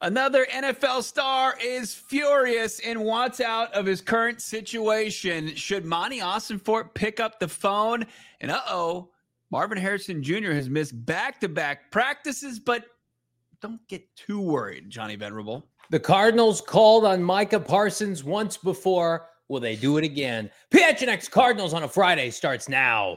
Another NFL star is furious and wants out of his current situation. Should Monty Ossenfort pick up the phone? And Marvin Harrison Jr. has missed back-to-back practices, but don't get too worried, Johnny Venerable. The Cardinals called on Micah Parsons once before. Will they do it again? PHNX Cardinals on a Friday starts now.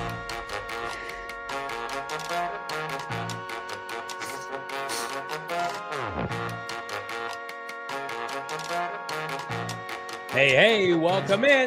Hey, welcome in.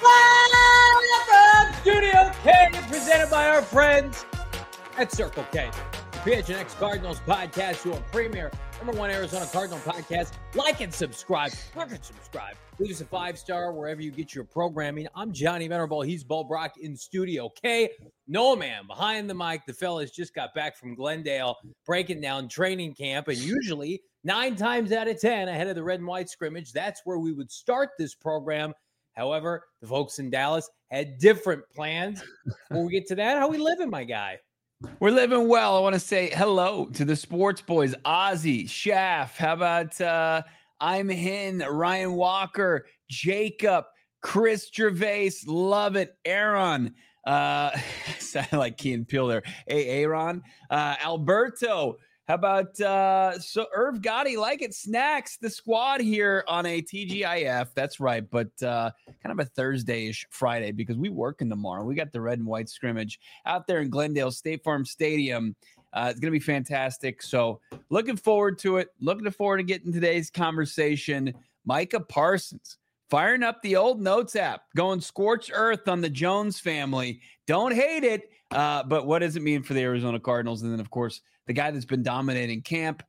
Live from Studio K, presented by our friends at Circle K. The PHNX Cardinals podcast, your premier #1 Arizona Cardinal podcast. Like and subscribe. Leave us a 5-star wherever you get your programming. I'm Johnny Venerable. He's Bo Brock in Studio K. Noah Man behind the mic. The fellas just got back from Glendale, breaking down training camp, and usually 9 times out of 10 ahead of the red and white scrimmage, that's where we would start this program. However, the folks in Dallas had different plans. Before we get to that, how we living, my guy? We're living well. I want to say hello to the sports boys, Ozzy, Schaff. How about I'm Hin, Ryan Walker, Jacob, Chris Gervais. Love it. Aaron. Sounded like Key and Peele there. Hey, Aaron. Alberto. How about Irv Gotti, like it, Snacks, the squad here on a TGIF. That's right, but kind of a Thursday-ish Friday because we working tomorrow. We got the red and white scrimmage out there in Glendale State Farm Stadium. It's going to be fantastic. So looking forward to it. Looking forward to getting today's conversation. Micah Parsons firing up the old Notes app, going scorched earth on the Jones family. Don't hate it, but what does it mean for the Arizona Cardinals? And then, of course, the guy that's been dominating camp,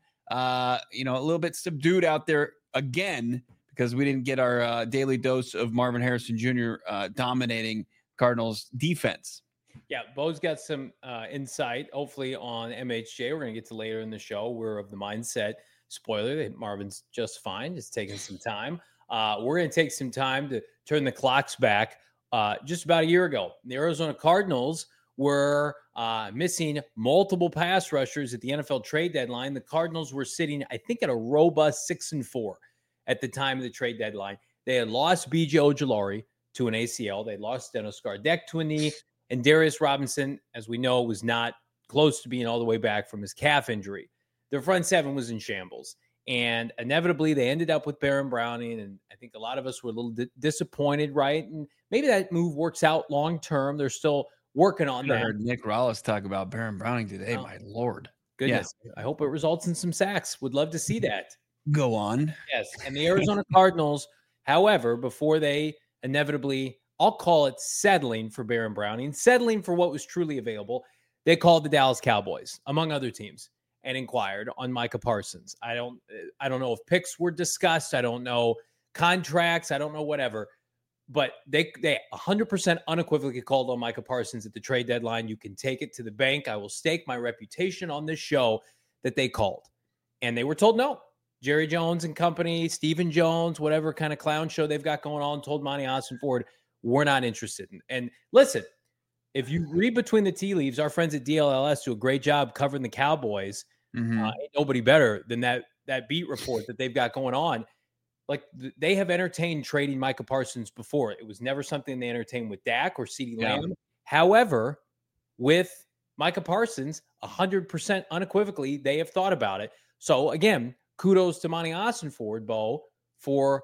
a little bit subdued out there again because we didn't get our daily dose of Marvin Harrison Jr. Dominating Cardinals defense. Yeah, Bo's got some insight, hopefully, on MHJ. We're going to get to later in the show. We're of the mindset, spoiler, that Marvin's just fine, just taking some time. We're going to take some time to turn the clocks back. Just about a year ago, the Arizona Cardinals were missing multiple pass rushers at the NFL trade deadline. The Cardinals were sitting, I think, at a robust 6-4 at the time of the trade deadline. They had lost B.J. Ojulari to an ACL. They lost Steno Skardek to a knee. And Darius Robinson, as we know, was not close to being all the way back from his calf injury. Their front seven was in shambles. And inevitably, they ended up with Baron Browning. And I think a lot of us were a little disappointed, right? And maybe that move works out long term. They're still working on that. I heard Nick Rallis talk about Baron Browning today. Oh, my Lord. Goodness. Yeah. I hope it results in some sacks. Would love to see that. Go on. Yes. And the Arizona Cardinals, however, before they inevitably, I'll call it settling for Baron Browning, settling for what was truly available, they called the Dallas Cowboys, among other teams, and inquired on Micah Parsons. I don't know if picks were discussed. I don't know contracts. I don't know whatever. But they 100% unequivocally called on Micah Parsons at the trade deadline. You can take it to the bank. I will stake my reputation on this show that they called. And they were told no. Jerry Jones and company, Stephen Jones, whatever kind of clown show they've got going on, told Monty Ossenfort, we're not interested. And listen, if you read between the tea leaves, our friends at DLLS do a great job covering the Cowboys. Ain't nobody better than that beat report that they've got going on. Like, they have entertained trading Micah Parsons before. It was never something they entertained with Dak or CeeDee Lamb. However, with Micah Parsons, 100% unequivocally, they have thought about it. So, again, kudos to Monty Ossenfort, Bo, for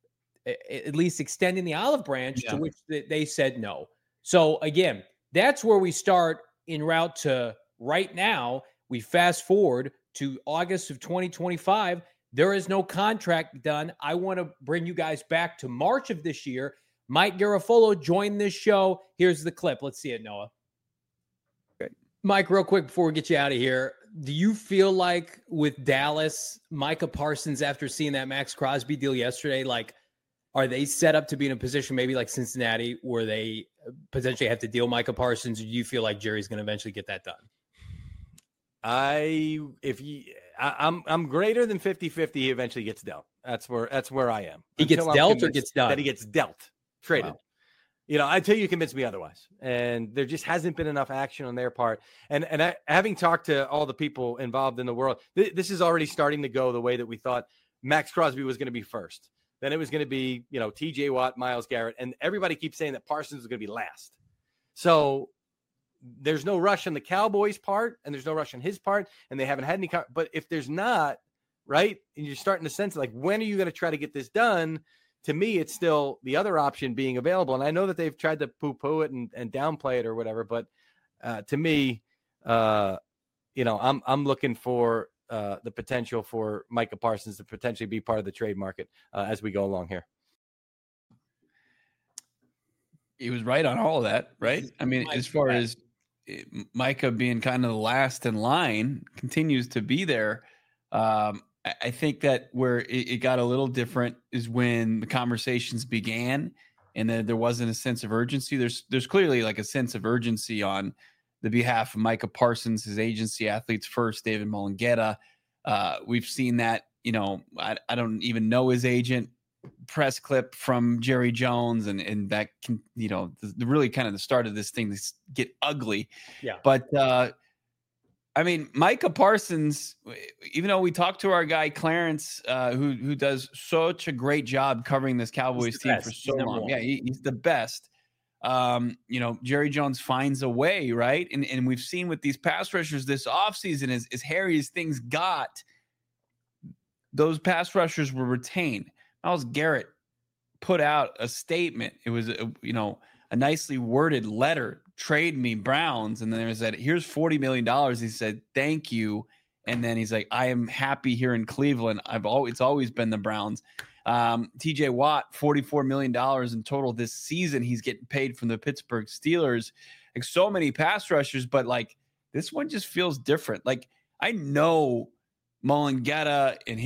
at least extending the olive branch to which they said no. So, again, that's where we start en route to right now. We fast forward to August of 2025. There is no contract done. I want to bring you guys back to March of this year. Mike Garafolo joined this show. Here's the clip. Let's see it, Noah. Okay. Mike, real quick before we get you out of here, do you feel like with Dallas, Micah Parsons, after seeing that Max Crosby deal yesterday, like, are they set up to be in a position maybe like Cincinnati where they potentially have to deal Micah Parsons? Or do you feel like Jerry's going to eventually get that done? I'm greater than 50-50. He eventually gets dealt. That's where I am. He gets dealt or gets done? That he gets dealt, traded. until you convince me otherwise. And there just hasn't been enough action on their part. And having talked to all the people involved in the world, this is already starting to go the way that we thought Max Crosby was going to be first. Then it was going to be, TJ Watt, Myles Garrett, and everybody keeps saying that Parsons is going to be last. So there's no rush on the Cowboys' part, and there's no rush on his part, and they haven't had any. But if there's not, right, and you're starting to sense like, when are you going to try to get this done? To me, it's still the other option being available. And I know that they've tried to poo-poo it and downplay it or whatever, but to me, I'm looking for the potential for Micah Parsons to potentially be part of the trade market as we go along here. He was right on all of that, right? I mean, as far as Micah being kind of the last in line, continues to be there. I think that where it got a little different is when the conversations began, and then there wasn't a sense of urgency. There's clearly like a sense of urgency on the behalf of Micah Parsons, his agency, Athletes First, David Mulugheta. We've seen that. I don't even know his agent. Press clip from Jerry Jones, and that can, really kind of the start of this thing to get ugly. Yeah, but. I mean, Micah Parsons, even though we talked to our guy Clarence, who does such a great job covering this Cowboys team for so long. Yeah, he's the best. Jerry Jones finds a way, right? And we've seen with these pass rushers this offseason, as hairy as things got, those pass rushers were retained. Myles Garrett put out a statement. It was, a nicely worded letter, trade me Browns. And then there was that, here's $40 million. He said, thank you. And then he's like, I am happy here in Cleveland. It's always been the Browns. TJ Watt, $44 million in total this season. He's getting paid from the Pittsburgh Steelers. Like, so many pass rushers, but like this one just feels different. Like, I know Mulugheta and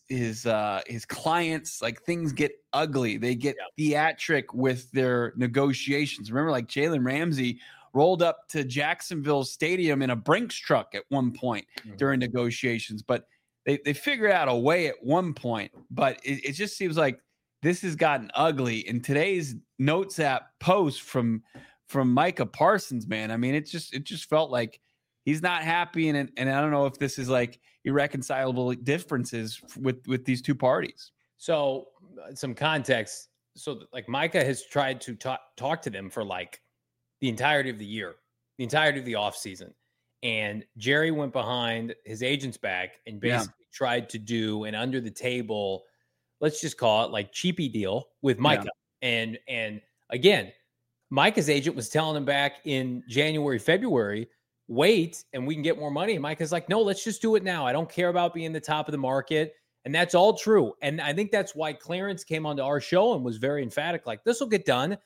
his clients, like, things get ugly. They get theatric with their negotiations. Remember, like, Jalen Ramsey rolled up to Jacksonville Stadium in a Brinks truck at one point during negotiations, but they figured out a way at one point. But it just seems like this has gotten ugly. And today's Notes app post from Micah Parsons, man, I mean, it just felt like he's not happy, and I don't know if this is like irreconcilable differences with these two parties. So some context. So like Micah has tried to talk to them for like the entirety of the year, the entirety of the offseason. And Jerry went behind his agent's back and basically tried to do an under the table, let's just call it like cheapy deal with Micah. Yeah. And again, Micah's agent was telling him back in January, February, wait, and we can get more money. And Micah's like, no, let's just do it now. I don't care about being the top of the market. And that's all true. And I think that's why Clarence came onto our show and was very emphatic, like, this will get done.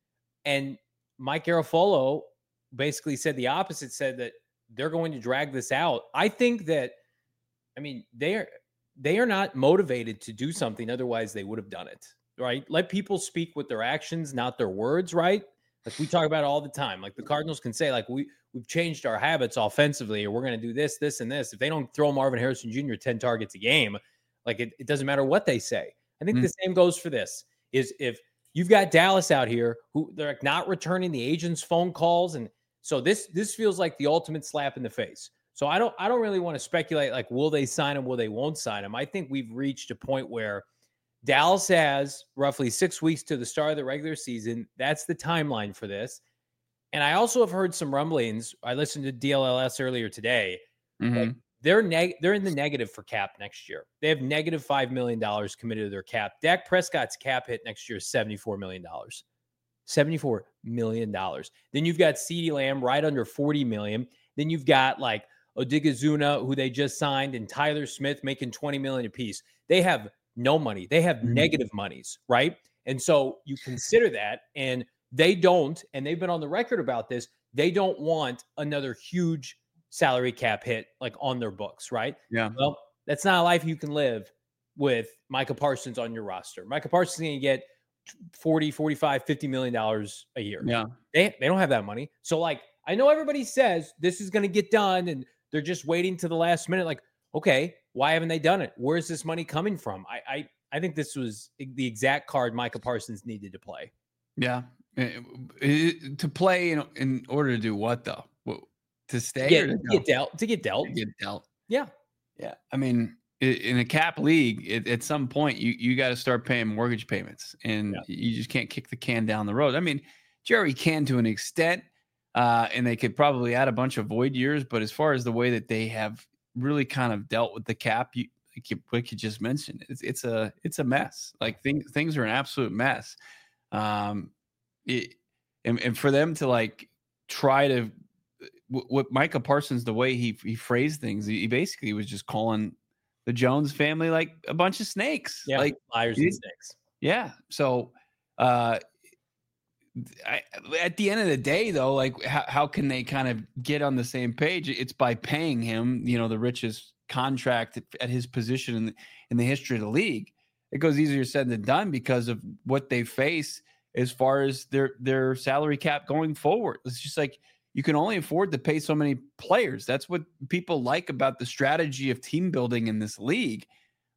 And Mike Garafolo basically said the opposite, said that they're going to drag this out. I think that, I mean, they are not motivated to do something. Otherwise they would have done it, right? Let people speak with their actions, not their words, right? Like we talk about it all the time. Like the Cardinals can say, like, we've changed our habits offensively, or we're going to do this, this, and this. If they don't throw Marvin Harrison Jr. 10 targets a game, like it doesn't matter what they say. I think the same goes for this. Is if you've got Dallas out here who they're like not returning the agent's phone calls, and so this feels like the ultimate slap in the face. So I don't really want to speculate like, will they sign him, will they won't sign him. I think we've reached a point where Dallas has roughly 6 weeks to the start of the regular season. That's the timeline for this. And I also have heard some rumblings. I listened to DLLS earlier today. Like they're in the negative for cap next year. They have negative $5 million committed to their cap. Dak Prescott's cap hit next year is $74 million. $74 million. Then you've got CeeDee Lamb right under $40 million. Then you've got like Odigizuna, who they just signed, and Tyler Smith making $20 million apiece. They have no money. They have negative monies, right? And so you consider that, and they don't, and they've been on the record about this, they don't want another huge salary cap hit like on their books, right? Yeah. Well, that's not a life you can live with Micah Parsons on your roster. Micah Parsons is going to get $40, $45, $50 million a year. Yeah. They don't have that money. So like, I know everybody says this is going to get done and they're just waiting to the last minute. Like, okay, why haven't they done it? Where's this money coming from? I think this was the exact card Micah Parsons needed to play. Yeah. To play in order to do what though? To stay Get, or to get dealt? To get dealt. To get dealt. Yeah. Yeah. I mean, in a cap league, at some point you got to start paying mortgage payments, and you just can't kick the can down the road. I mean, Jerry can to an extent, and they could probably add a bunch of void years, but as far as the way that they have really kind of dealt with the cap, like you just mentioned, it's a mess. Like things are an absolute mess. And for them to like try to what Micah Parsons, the way he phrased things, he basically was just calling the Jones family like a bunch of snakes, like liars and snakes. Yeah. So at the end of the day, though, like how can they kind of get on the same page? It's by paying him, the richest contract at his position in the history of the league. It goes easier said than done because of what they face as far as their salary cap going forward. It's just like you can only afford to pay so many players. That's what people like about the strategy of team building in this league.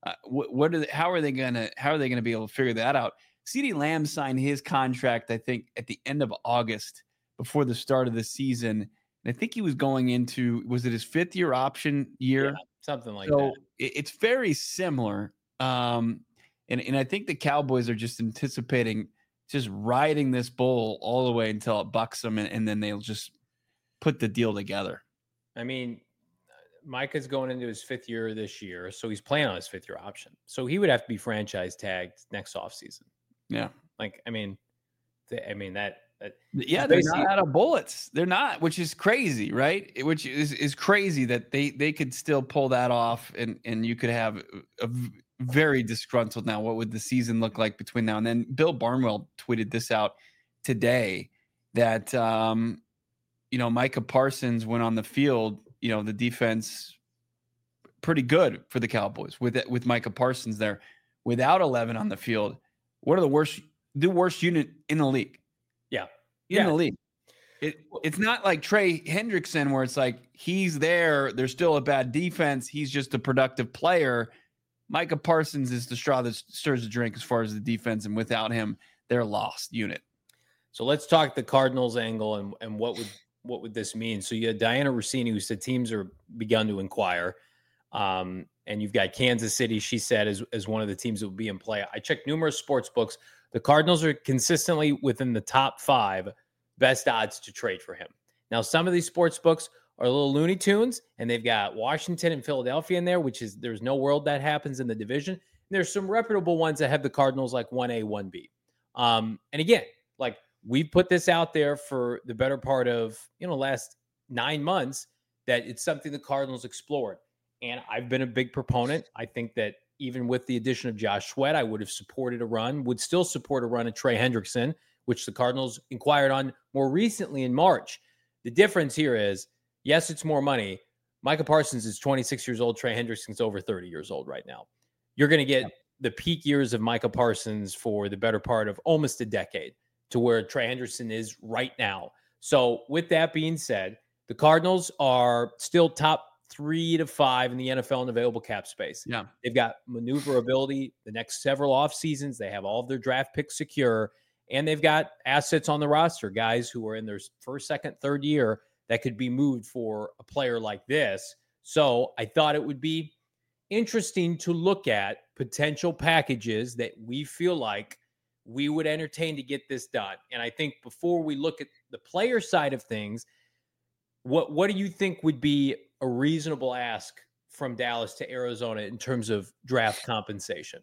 How are they gonna be able to figure that out? CeeDee Lamb signed his contract, I think, at the end of August before the start of the season. And I think he was going into, was it his 5th-year option year? Yeah, something like that. It's very similar. And I think the Cowboys are just anticipating just riding this bull all the way until it bucks them, and then they'll just put the deal together. I mean, Micah's going into his 5th year this year, so he's playing on his 5th-year option. So he would have to be franchise tagged next offseason. Yeah. Like, I mean, that yeah, they're not out of bullets. They're not, which is crazy, right? Which is crazy that they could still pull that off, and you could have a very disgruntled now. What would the season look like between now and then? Bill Barnwell tweeted this out today that Micah Parsons went on the field. The defense pretty good for the Cowboys with Micah Parsons there. Without 11 on the field, what are the worst unit in the league? In the league. It's not like Trey Hendrickson where it's like he's there, there's still a bad defense, he's just a productive player. Micah Parsons is the straw that stirs the drink as far as the defense, and without him, they're a lost unit. So let's talk the Cardinals angle and what would this mean? So you had Diana Rossini, who said teams are begun to inquire. And you've got Kansas City, she said, as one of the teams that will be in play. I checked numerous sports books. The Cardinals are consistently within the top 5 best odds to trade for him. Now, some of these sports books are a little Looney Tunes, and they've got Washington and Philadelphia in there, there's no world that happens in the division. And there's some reputable ones that have the Cardinals like 1A, 1B. And again, like we've put this out there for the better part of, last 9 months, that it's something the Cardinals explored. And I've been a big proponent. I think that even with the addition of Josh Sweat, I would still support a run of Trey Hendrickson, which the Cardinals inquired on more recently in March. The difference here is, yes, it's more money. Micah Parsons is 26 years old. Trey Hendrickson's over 30 years old right now. You're going to get the peak years of Micah Parsons for the better part of almost a decade to where Trey Hendrickson is right now. So with that being said, the Cardinals are still top 3 to 5 in the NFL in available cap space. Yeah. They've got maneuverability the next several off seasons. They have all of their draft picks secure, and they've got assets on the roster, guys who are in their first, second, third year that could be moved for a player like this. So I thought it would be interesting to look at potential packages that we feel like we would entertain to get this done. And I think before we look at the player side of things, what do you think would be a reasonable ask from Dallas to Arizona in terms of draft compensation?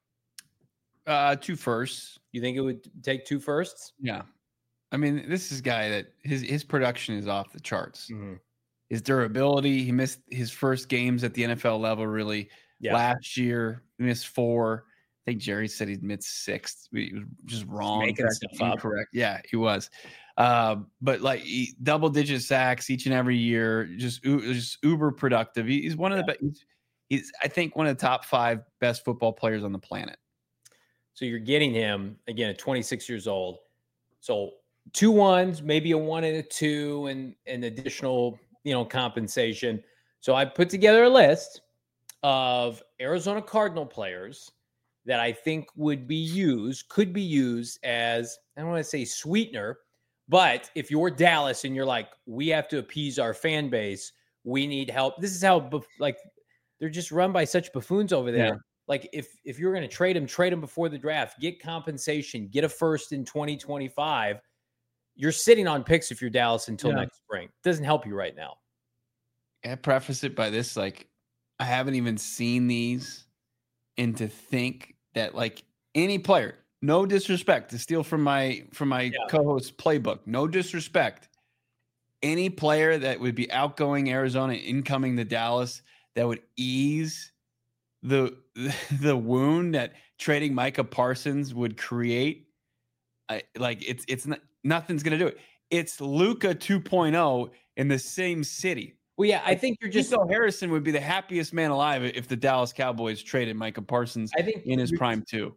2 firsts. You think it would take 2 firsts? Yeah. I mean, this is a guy that his production is off the charts. Mm-hmm. His durability, he missed his first games at the NFL level really last year. He missed 4. I think Jerry said he'd missed 6. He was just wrong. Making stuff up. Correct. Yeah, he was. But like double-digit sacks each and every year, just uber productive. He's one of the best. He's I think one of the top 5 best football players on the planet. So you're getting him again at 26 years old. So 2 1s, maybe a 1 and a 2, and an additional compensation. So I put together a list of Arizona Cardinal players that I think could be used as, I don't want to say sweetener, but if you're Dallas and you're like, we have to appease our fan base, we need help. This is how, like, they're just run by such buffoons over there. Yeah. Like, if you're going to trade him before the draft, get compensation, get a first in 2025. You're sitting on picks if you're Dallas until next spring. It doesn't help you right now. I preface it by this, like, I haven't even seen these, and to think that, like, any player, no disrespect, to steal from my co-host's playbook, no disrespect, any player that would be outgoing Arizona, incoming to Dallas, that would ease the wound that trading Micah Parsons would create, it's not, nothing's gonna do it. It's Luka 2.0 in the same city. Well, yeah, I think you're just. Nico Harrison would be the happiest man alive if the Dallas Cowboys traded Micah Parsons, I think, in his prime too.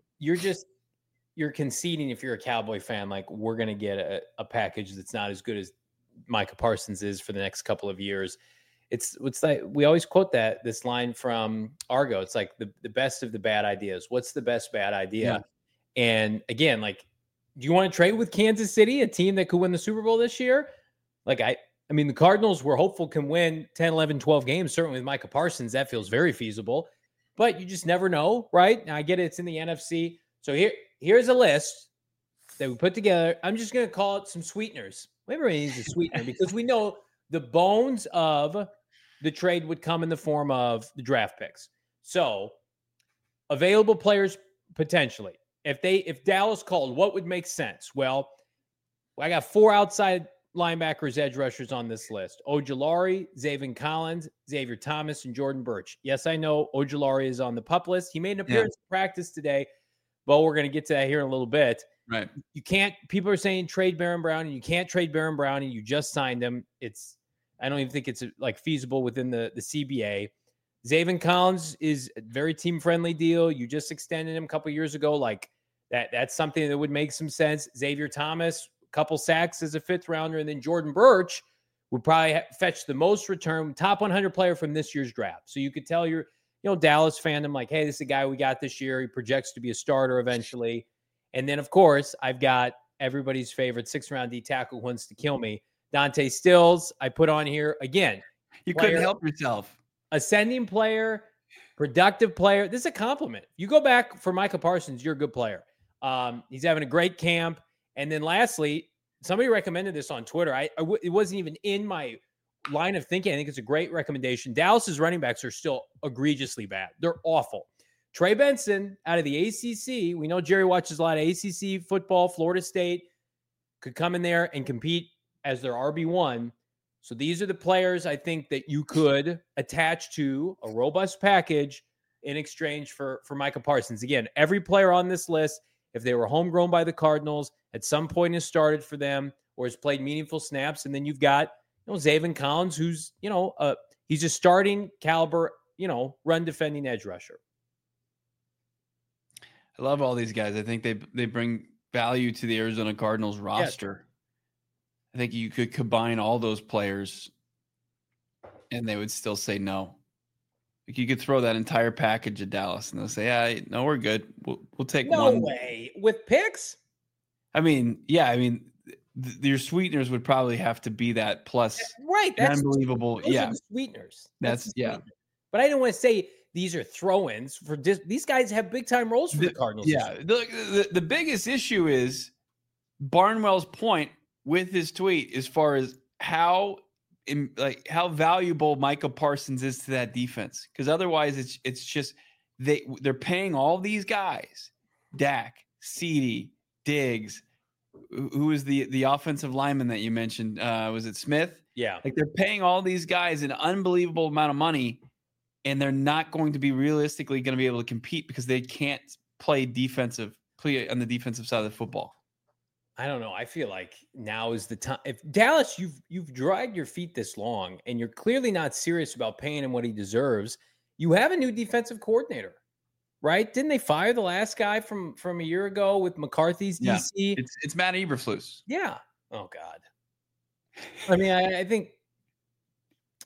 You're conceding, if you're a Cowboy fan, like, we're going to get a package that's not as good as Micah Parsons is for the next couple of years. It's like, we always quote this line from Argo. It's like the best of the bad ideas. What's the best bad idea? Yeah. And again, like, do you want to trade with Kansas City, a team that could win the Super Bowl this year? Like, I mean, the Cardinals, we're hopeful, can win 10, 11, 12 games. Certainly with Micah Parsons, that feels very feasible. But you just never know, right? Now, I get it. It's in the NFC. So here's a list that we put together. I'm just going to call it some sweeteners. Everybody needs a sweetener because we know the bones of the trade would come in the form of the draft picks. So available players potentially. If Dallas called, what would make sense? Well, I got 4 outside linebackers, edge rushers on this list: Ojulari, Zaven Collins, Xavier Thomas, and Jordan Burch. Yes, I know Ojulari is on the PUP list. He made an appearance in practice today, but we're going to get to that here in a little bit. Right. You can't, people are saying trade Baron Brown, and you can't trade Baron Brown, and you just signed him. I don't even think it's like feasible within the CBA. Zaven Collins is a very team-friendly deal. You just extended him a couple years ago. Like, that's something that would make some sense. Xavier Thomas, couple sacks as a 5th rounder, and then Jordan Burch would probably fetch the most return, top 100 player from this year's draft. So you could tell your, Dallas fandom, like, hey, this is a guy we got this year. He projects to be a starter eventually. And then, of course, I've got everybody's favorite 6th round D tackle who wants to kill me, Dante Stills. I put on here again. You couldn't help yourself. Ascending player, productive player. This is a compliment. You go back for Micah Parsons, you're a good player. He's having a great camp. And then lastly, somebody recommended this on Twitter. It wasn't even in my line of thinking. I think it's a great recommendation. Dallas's running backs are still egregiously bad. They're awful. Trey Benson out of the ACC. We know Jerry watches a lot of ACC football. Florida State could come in there and compete as their RB1. So these are the players I think that you could attach to a robust package in exchange for Micah Parsons. Again, every player on this list, if they were homegrown by the Cardinals, at some point has started for them or has played meaningful snaps. And then you've got, Zaven Collins, who's, he's a starting caliber, run defending edge rusher. I love all these guys. I think they bring value to the Arizona Cardinals roster. Yes. I think you could combine all those players and they would still say no. Like, you could throw that entire package at Dallas and they'll say, yeah, no, we're good. We'll take one. No way. With picks? I mean, your sweeteners would probably have to be that plus. Right. That's unbelievable. Those are the sweeteners. That's yeah. But I didn't want to say these are throw-ins for these guys have big time roles for the Cardinals. Yeah. The biggest issue is Barnwell's point with his tweet as far as how valuable Micah Parsons is to that defense. Because otherwise it's just they're paying all these guys, Dak, CeeDee, Diggs, who is the offensive lineman that you mentioned? Was it Smith? Yeah. Like, they're paying all these guys an unbelievable amount of money, and they're not going to be realistically going to be able to compete because they can't play on the defensive side of the football. I don't know. I feel like now is the time. If Dallas, you've dragged your feet this long, and you're clearly not serious about paying him what he deserves. You have a new defensive coordinator, right? Didn't they fire the last guy from a year ago with McCarthy's DC? Yeah, it's Matt Eberflus. Yeah. Oh God. I mean, I think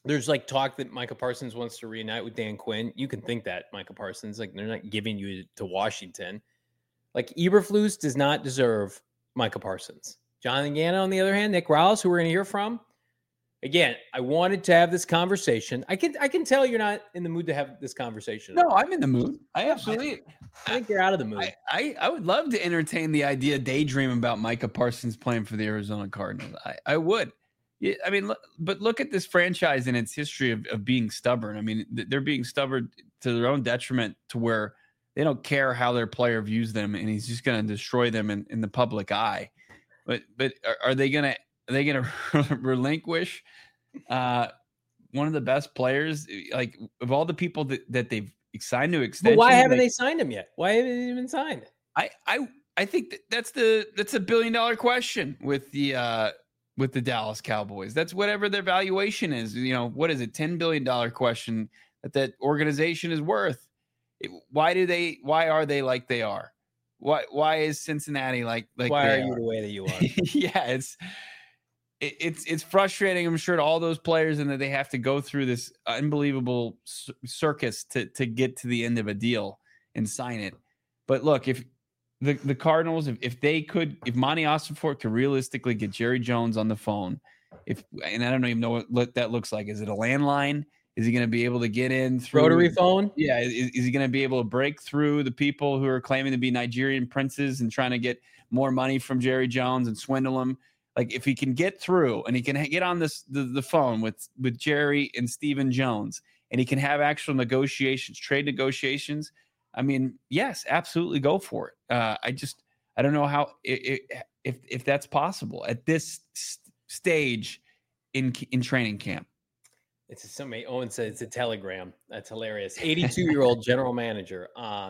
There's like talk that Micah Parsons wants to reunite with Dan Quinn. You can think that Micah Parsons, like they're not giving you to Washington. Like Eberflus does not deserve Micah Parsons. Jonathan Gannon, on the other hand, Nick Rawls, who we're going to hear from. Again, I wanted to have this conversation. I can tell you're not in the mood to have this conversation. No, I'm in the mood. I absolutely. I think you're out of the mood. I would love to entertain the idea, daydream about Micah Parsons playing for the Arizona Cardinals. I would. Yeah, I mean, but look at this franchise and its history of being stubborn. I mean, they're being stubborn to their own detriment, to where they don't care how their player views them, and he's just going to destroy them in the public eye. But are they going to relinquish one of the best players, like of all the people that they've signed to extension? But why haven't they signed him yet? Why haven't they even signed? I think that's a $1 billion question with the Dallas Cowboys. That's whatever their valuation is. You know, what is it? $10 billion question that organization is worth. Why are they like they are? Why is Cincinnati like why are you the way that you are? Yeah, it's frustrating, I'm sure, to all those players, and that they have to go through this unbelievable circus to get to the end of a deal and sign it. But look, if the Cardinals, if Monty Ossenfort could realistically get Jerry Jones on the phone, and I don't even know what that looks like. Is it a landline? Is he going to be able to get in through rotary phone? Yeah. Is he going to be able to break through the people who are claiming to be Nigerian princes and trying to get more money from Jerry Jones and swindle him? Like, if he can get through and he can get on the phone with Jerry and Stephen Jones, and he can have actual negotiations, trade negotiations, I mean, yes, absolutely go for it. I don't know how if that's possible at this stage in training camp. It's somebody. Owen said it's a telegram. That's hilarious. 82-year-old general manager.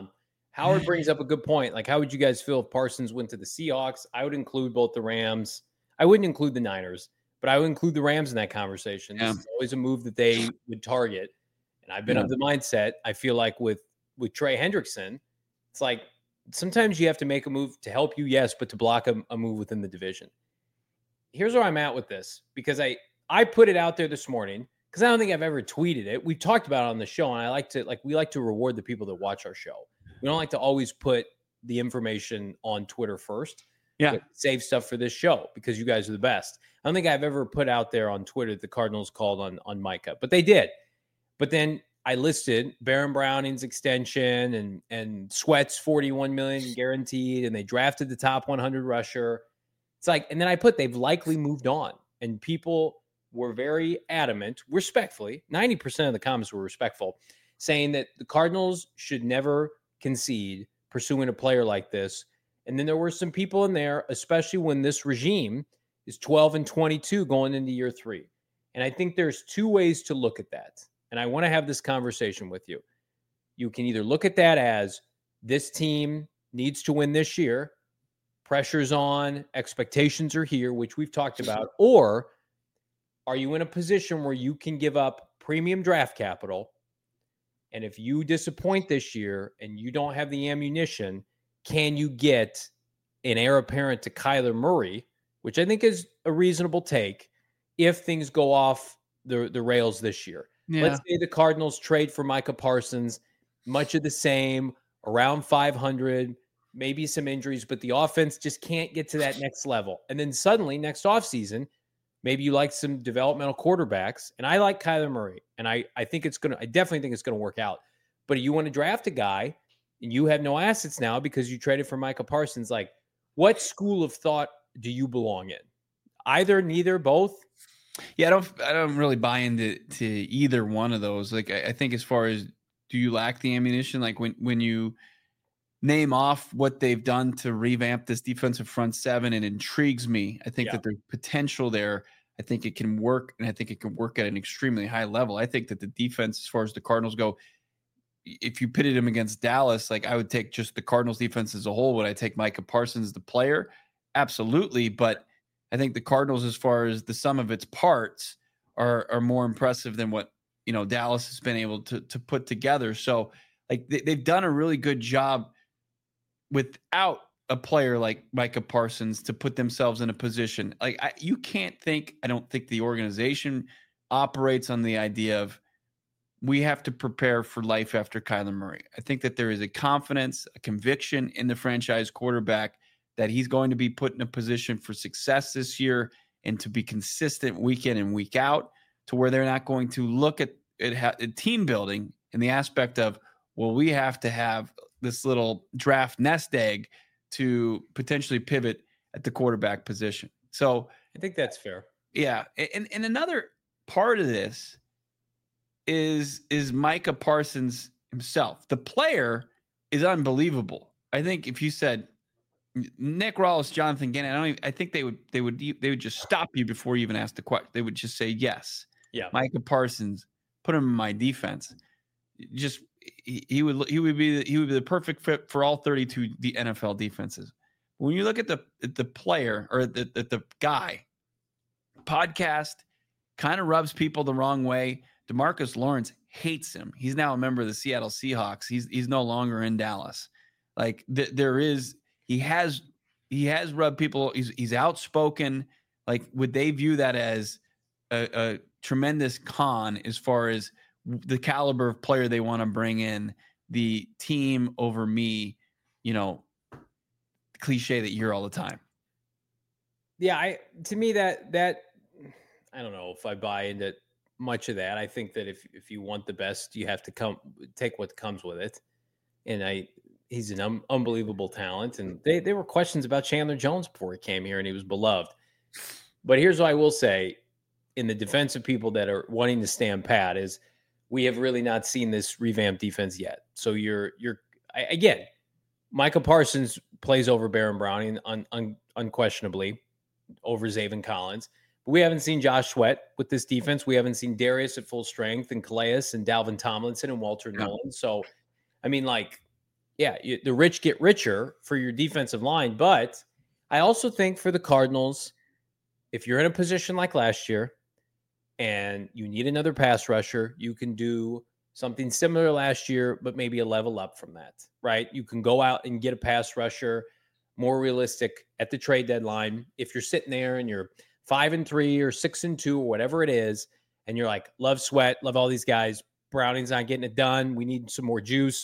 Howard brings up a good point. Like, how would you guys feel if Parsons went to the Seahawks? I would include both the Rams. I wouldn't include the Niners, but I would include the Rams in that conversation. Yeah. This is always a move that they would target. And I've been of the mindset. I feel like with Trey Hendrickson, it's like sometimes you have to make a move to help you, yes, but to block a move within the division. Here's where I'm at with this, because I put it out there this morning, because I don't think I've ever tweeted it. We've talked about it on the show, and we like to reward the people that watch our show. We don't like to always put the information on Twitter first. Yeah. Save stuff for this show because you guys are the best. I don't think I've ever put out there on Twitter that the Cardinals called on Micah, but they did. But then I listed Baron Browning's extension and Sweat's $41 million guaranteed, and they drafted the top 100 rusher. It's like, and then I put they've likely moved on, and people were very adamant, respectfully. 90% of the comments were respectful, saying that the Cardinals should never concede pursuing a player like this. And then there were some people in there, especially when this regime is 12-22 going into year 3. And I think there's two ways to look at that. And I want to have this conversation with you. You can either look at that as this team needs to win this year, pressure's on, expectations are here, which we've talked about, or are you in a position where you can give up premium draft capital? And if you disappoint this year and you don't have the ammunition, can you get an heir apparent to Kyler Murray, which I think is a reasonable take, if things go off the rails this year? Yeah. Let's say the Cardinals trade for Micah Parsons, much of the same, around 500, maybe some injuries, but the offense just can't get to that next level. And then suddenly next offseason, maybe you like some developmental quarterbacks, and I like Kyler Murray, and I definitely think it's going to work out. But you want to draft a guy, and you have no assets now because you traded for Micah Parsons. Like, what school of thought do you belong in? Either, neither, both? Yeah, I don't really buy into either one of those. Like, I think as far as, do you lack the ammunition? Like, when you name off what they've done to revamp this defensive front seven, and it intrigues me. I think that there's potential there. I think it can work, and I think it can work at an extremely high level. I think that the defense, as far as the Cardinals go, if you pitted him against Dallas, like, I would take just the Cardinals defense as a whole. Would I take Micah Parsons, the player? Absolutely. But I think the Cardinals, as far as the sum of its parts, are more impressive than what, Dallas has been able to put together. So, like, they've done a really good job without a player like Micah Parsons to put themselves in a position. Like, I don't think the organization operates on the idea of we have to prepare for life after Kyler Murray. I think that there is a confidence, a conviction in the franchise quarterback that he's going to be put in a position for success this year and to be consistent week in and week out, to where they're not going to look at team building in the aspect of, well, we have to have this little draft nest egg to potentially pivot at the quarterback position. So I think that's fair. Yeah. And another part of this is Micah Parsons himself. The player is unbelievable. I think if you said Nick Rawls, Jonathan Gannon, I think they would just stop you before you even ask the question. They would just say yes. Yeah. Micah Parsons, put him in my defense. Just he would be the perfect fit for all 32 the NFL defenses. When you look at the player or the guy, podcast kind of rubs people the wrong way. DeMarcus Lawrence hates him. He's now a member of the Seattle Seahawks. He's no longer in Dallas. Like he has rubbed people. He's outspoken. Like, would they view that as a tremendous con as far as the caliber of player they want to bring in, the team over me, cliche that you hear all the time? Yeah, to me that I don't know if I buy into much of that. I think that if you want the best, you have to take what comes with it. And he's an unbelievable talent. And there were questions about Chandler Jones before he came here, and he was beloved. But here's what I will say in the defense of people that are wanting to stand pat is we have really not seen this revamped defense yet. So again, Micah Parsons plays over Baron Browning unquestionably over Zaven Collins. But we haven't seen Josh Sweat with this defense. We haven't seen Darius at full strength and Calais and Dalvin Tomlinson and Walter Nolan. So, I mean, the rich get richer for your defensive line. But I also think for the Cardinals, if you're in a position like last year and you need another pass rusher, you can do something similar last year, but maybe a level up from that, right? You can go out and get a pass rusher more realistic at the trade deadline. If you're sitting there and you're 5-3 or 6-2 or whatever it is, and you're like, love Sweat, love all these guys, Browning's not getting it done, we need some more juice.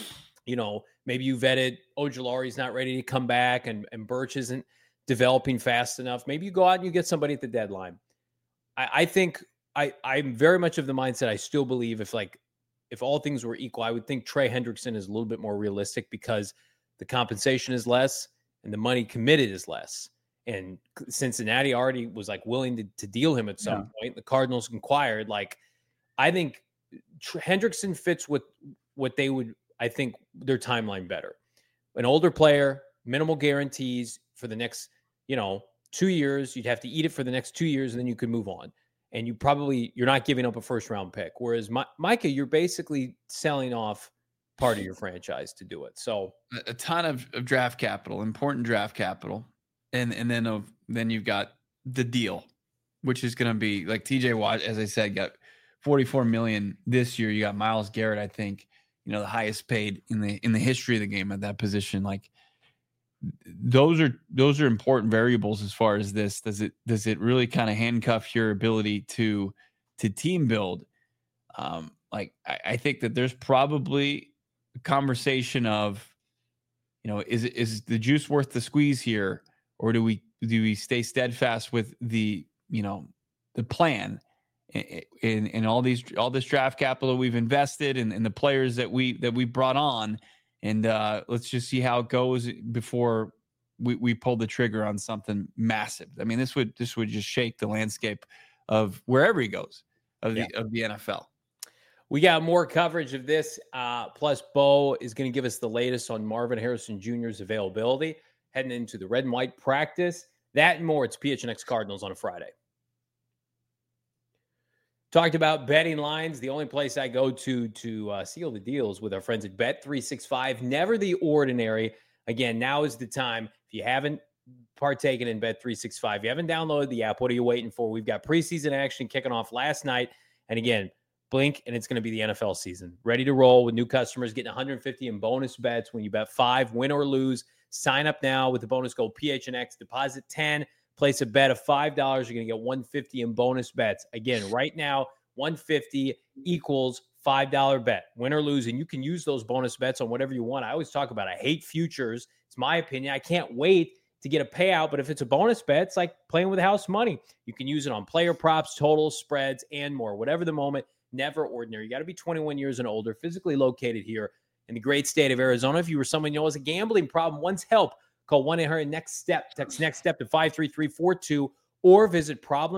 Maybe you vetted Ojulari's not ready to come back, and Birch isn't developing fast enough. Maybe you go out and you get somebody at the deadline. I think I'm very much of the mindset. I still believe if all things were equal, I would think Trey Hendrickson is a little bit more realistic because the compensation is less and the money committed is less. And Cincinnati already was willing to deal him at some point. The Cardinals inquired. I think Hendrickson fits with what they would, I think, their timeline better. An older player, minimal guarantees for the next, 2 years. You'd have to eat it for the next 2 years, and then you could move on. And you're not giving up a first round pick. Whereas Micah, you're basically selling off part of your franchise to do it. So a ton of draft capital, important draft capital. And then you've got the deal, which is going to be like TJ Watt, as I said, got $44 million this year. You got Myles Garrett, I think, the highest paid in the history of the game at that position. Like, those are important variables as far as this. Does it really kind of handcuff your ability to team build? I think that there's probably a conversation of, is the juice worth the squeeze here? Or do we stay steadfast with the plan and all this draft capital we've invested and the players that we brought on, and let's just see how it goes before we pull the trigger on something massive. I mean, this would just shake the landscape of wherever he goes of the NFL. We got more coverage of this. Plus, Bo is going to give us the latest on Marvin Harrison Jr.'s availability heading into the red and white practice. That and more. It's PHNX Cardinals on a Friday. Talked about betting lines. The only place I go to seal the deals with our friends at Bet365. Never the ordinary. Again, now is the time. If you haven't partaken in Bet365, you haven't downloaded the app, what are you waiting for? We've got preseason action kicking off last night. And again, blink, and it's going to be the NFL season. Ready to roll with new customers getting 150 in bonus bets when you bet 5, win or lose. Sign up now with the bonus code PHNX. Deposit 10, Place a bet of $5. You're going to get $150 in bonus bets. Again, right now, $150 equals $5 bet. Win or lose, and you can use those bonus bets on whatever you want. I always talk about I hate futures. It's my opinion. I can't wait to get a payout, but if it's a bonus bet, it's like playing with house money. You can use it on player props, totals, spreads, and more. Whatever the moment, never ordinary. You got to be 21 years and older, physically located here in the great state of Arizona. If you were someone who has a gambling problem, wants help, call 1-800-NEXT-STEP. Text NEXT STEP to 53342 or visit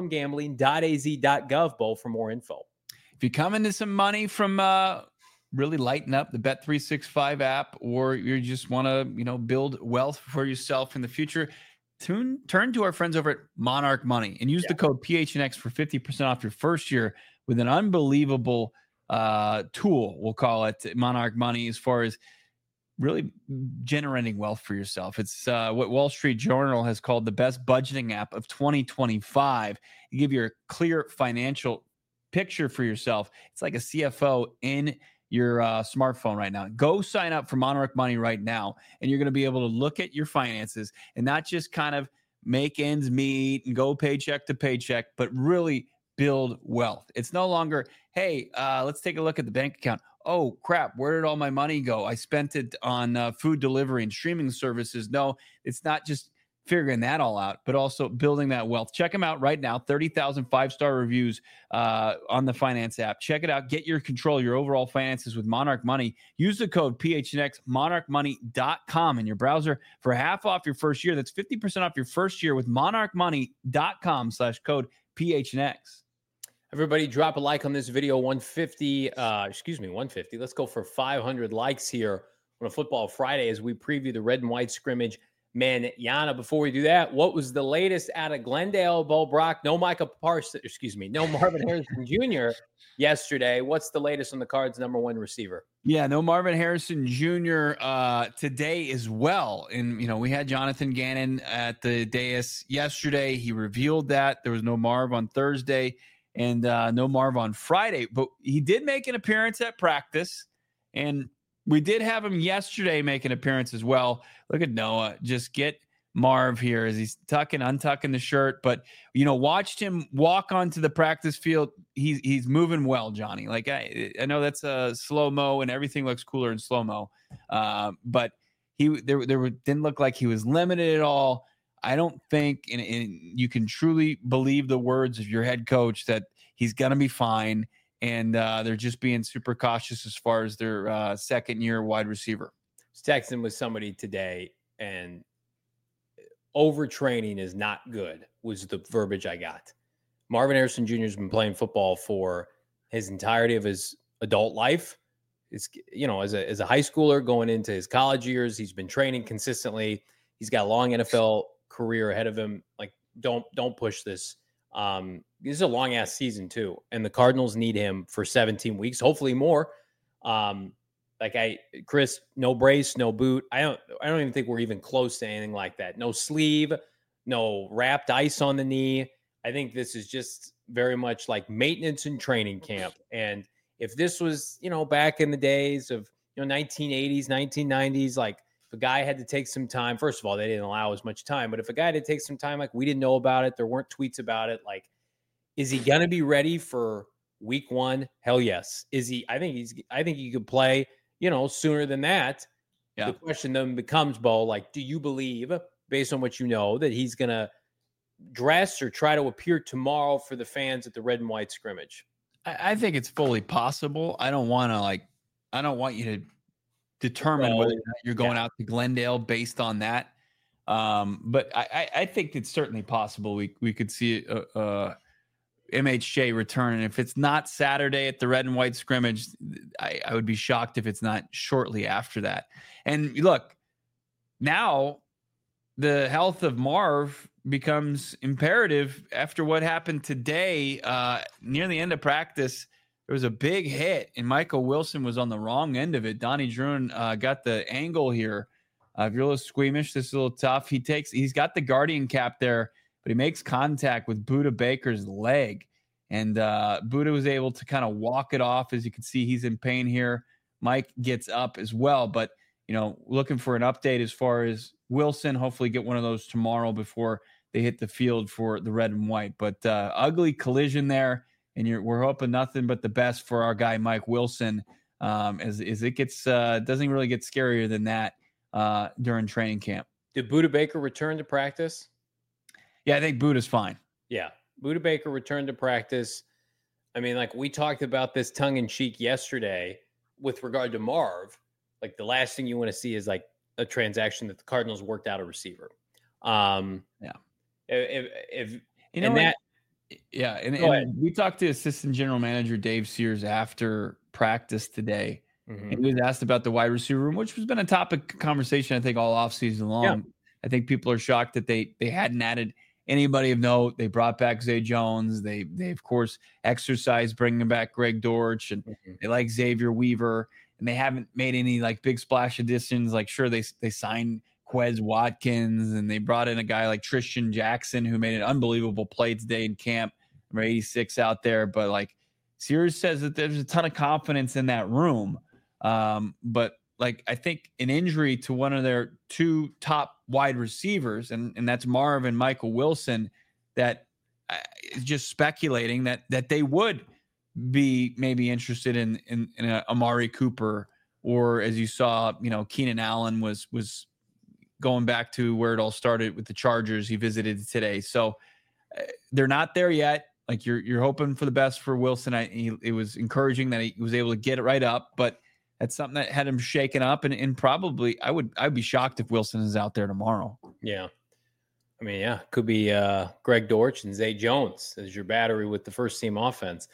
problemgambling.az.gov, Bo, for more info. If you come into some money from really lighten up the Bet365 app, or you just want to, build wealth for yourself in the future, turn to our friends over at Monarch Money and use the code PHNX for 50% off your first year with an unbelievable tool, we'll call it, Monarch Money, as far as really generating wealth for yourself. It's what Wall Street Journal has called the best budgeting app of 2025. You give you a clear financial picture for yourself. It's like a CFO in your smartphone right now. Go sign up for Monarch Money right now, and you're going to be able to look at your finances and not just kind of make ends meet and go paycheck to paycheck, but really build wealth. It's no longer, hey, let's take a look at the bank account. Oh, crap, where did all my money go? I spent it on food delivery and streaming services. No, it's not just figuring that all out, but also building that wealth. Check them out right now. 30,000 five-star reviews on the finance app. Check it out. Get your control, your overall finances with Monarch Money. Use the code PHNX, monarchmoney.com in your browser for half off your first year. That's 50% off your first year with monarchmoney.com/code PHNX. Everybody drop a like on this video. 150. Let's go for 500 likes here on a Football Friday as we preview the red and white scrimmage. Manana, before we do that, what was the latest out of Glendale, Bo Brock? No Marvin Harrison Jr. yesterday. What's the latest on the Cards' number one receiver? Yeah, no Marvin Harrison Jr. Today as well. And, we had Jonathan Gannon at the dais yesterday. He revealed that there was no Marv on Thursday and no Marv on Friday. But he did make an appearance at practice, and we did have him yesterday make an appearance as well. Look at Noah. Just get Marv here as he's untucking the shirt. But, watched him walk onto the practice field. He's moving well, Johnny. Like, I know that's a slow-mo and everything looks cooler in slow-mo. But didn't look like he was limited at all. I don't think, and you can truly believe the words of your head coach that he's going to be fine. And they're just being super cautious as far as their second-year wide receiver. I was texting with somebody today, and overtraining is not good, was the verbiage I got. Marvin Harrison Jr. has been playing football for his entirety of his adult life. It's, as a high schooler going into his college years, he's been training consistently. He's got a long NFL career ahead of him. Like, don't push this. This is a long ass season too, and the Cardinals need him for 17 weeks, hopefully more. Chris, no brace, no boot. I don't even think we're even close to anything like that. No sleeve, no wrapped ice on the knee. I think this is just very much like maintenance and training camp. And if this was, back in the days of 1980s, 1990s, like if a guy had to take some time, first of all, they didn't allow as much time, but if a guy had to take some time, like we didn't know about it, there weren't tweets about it, like, is he going to be ready for week one? Hell yes. Is he? I think he could play, sooner than that. Yeah. The question then becomes, Bo, like, do you believe, based on what you know, that he's going to dress or try to appear tomorrow for the fans at the red and white scrimmage? I think it's fully possible. I don't want you to determine whether or not you're going out to Glendale based on that. But I think it's certainly possible we could see MHJ return. And if it's not Saturday at the red and white scrimmage, I would be shocked if it's not shortly after that. And look, now the health of Marv becomes imperative after what happened today. Near the end of practice, there was a big hit, and Michael Wilson was on the wrong end of it. Donnie Druin got the angle here. If you're a little squeamish, this is a little tough. He's got the guardian cap there, but he makes contact with Budda Baker's leg. And Budda was able to kind of walk it off. As you can see, he's in pain here. Mike gets up as well. But, looking for an update as far as Wilson, hopefully get one of those tomorrow before they hit the field for the red and white. But ugly collision there, and we're hoping nothing but the best for our guy Mike Wilson. As it gets doesn't really get scarier than that during training camp. Did Budda Baker return to practice? Yeah, I think Budda's fine. Yeah, Budda Baker returned to practice. I mean, like we talked about this tongue in cheek yesterday with regard to Marv. Like the last thing you want to see is like a transaction that the Cardinals worked out a receiver. Yeah. If you know that. Yeah, and we talked to Assistant General Manager Dave Sears after practice today, and he was asked about the wide receiver room, which has been a topic of conversation, I think, all offseason long. Yeah. I think people are shocked that they hadn't added anybody of note. They brought back Zay Jones. They of course exercised bringing back Greg Dortch, and they like Xavier Weaver, and they haven't made any like big splash additions. Like sure they signed Quez Watkins, and they brought in a guy like Tristan Jackson who made an unbelievable play today in camp. Number 86 out there, but like Sears says that there's a ton of confidence in that room. But like I think an injury to one of their two top wide receivers, and that's Marv and Michael Wilson, that is just speculating that they would be maybe interested in Amari Cooper, or as you saw, Keenan Allen was going back to where it all started with the Chargers. He visited today. So they're not there yet. Like you're hoping for the best for Wilson. It was encouraging that he was able to get it right up, but that's something that had him shaken up. And probably I'd be shocked if Wilson is out there tomorrow. Yeah. I mean, yeah, could be Greg Dortch and Zay Jones as your battery with the first team offense.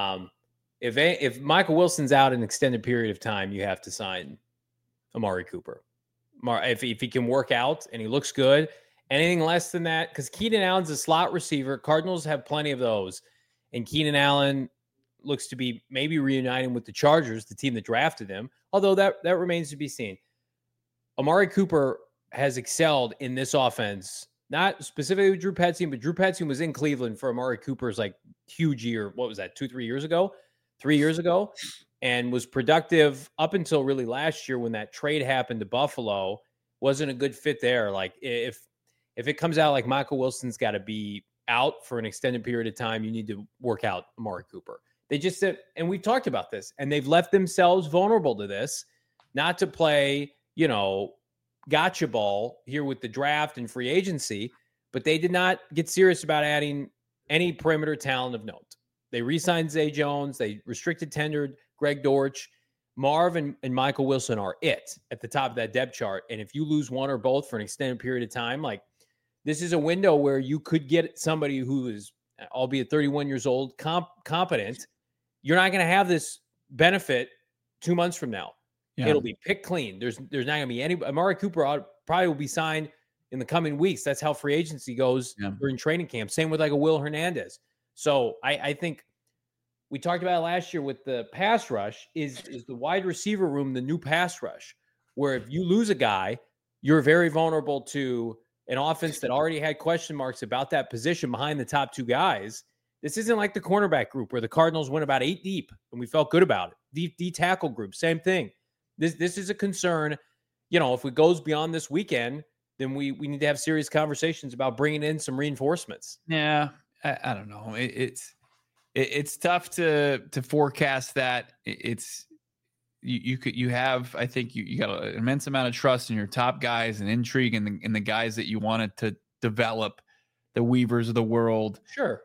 If Michael Wilson's out an extended period of time, you have to sign Amari Cooper. If he can work out and he looks good, anything less than that, because Keenan Allen's a slot receiver. Cardinals have plenty of those. And Keenan Allen looks to be maybe reuniting with the Chargers, the team that drafted him, although that remains to be seen. Amari Cooper has excelled in this offense, not specifically with Drew Petzing, but Drew Petzing was in Cleveland for Amari Cooper's like huge year. What was that, 3 years ago? And was productive up until really last year when that trade happened to Buffalo. Wasn't a good fit there. Like if it comes out like Michael Wilson's got to be out for an extended period of time, you need to work out Amari Cooper. They just said, and we've talked about this, and they've left themselves vulnerable to this, not to play, gotcha ball here with the draft and free agency, but they did not get serious about adding any perimeter talent of note. They re-signed Zay Jones. They restricted tendered Greg Dortch. Marv and Michael Wilson are it at the top of that depth chart. And if you lose one or both for an extended period of time, like this is a window where you could get somebody who is, albeit 31 years old, competent. You're not going to have this benefit 2 months from now. Yeah. It'll be picked clean. There's not going to be any. Amari Cooper probably will be signed in the coming weeks. That's how free agency goes during training camp. Same with like a Will Hernandez. So I think we talked about it last year with the pass rush. Is the wide receiver room the new pass rush? Where if you lose a guy, you're very vulnerable to an offense that already had question marks about that position behind the top two guys. This isn't like the cornerback group where the Cardinals went about 8 deep and we felt good about it. D tackle group, same thing. This is a concern. If it goes beyond this weekend, then we need to have serious conversations about bringing in some reinforcements. Yeah, I don't know. It's tough to forecast that. You have, I think you got an immense amount of trust in your top guys and intrigue in the guys that you wanted to develop, the Weavers of the world. Sure.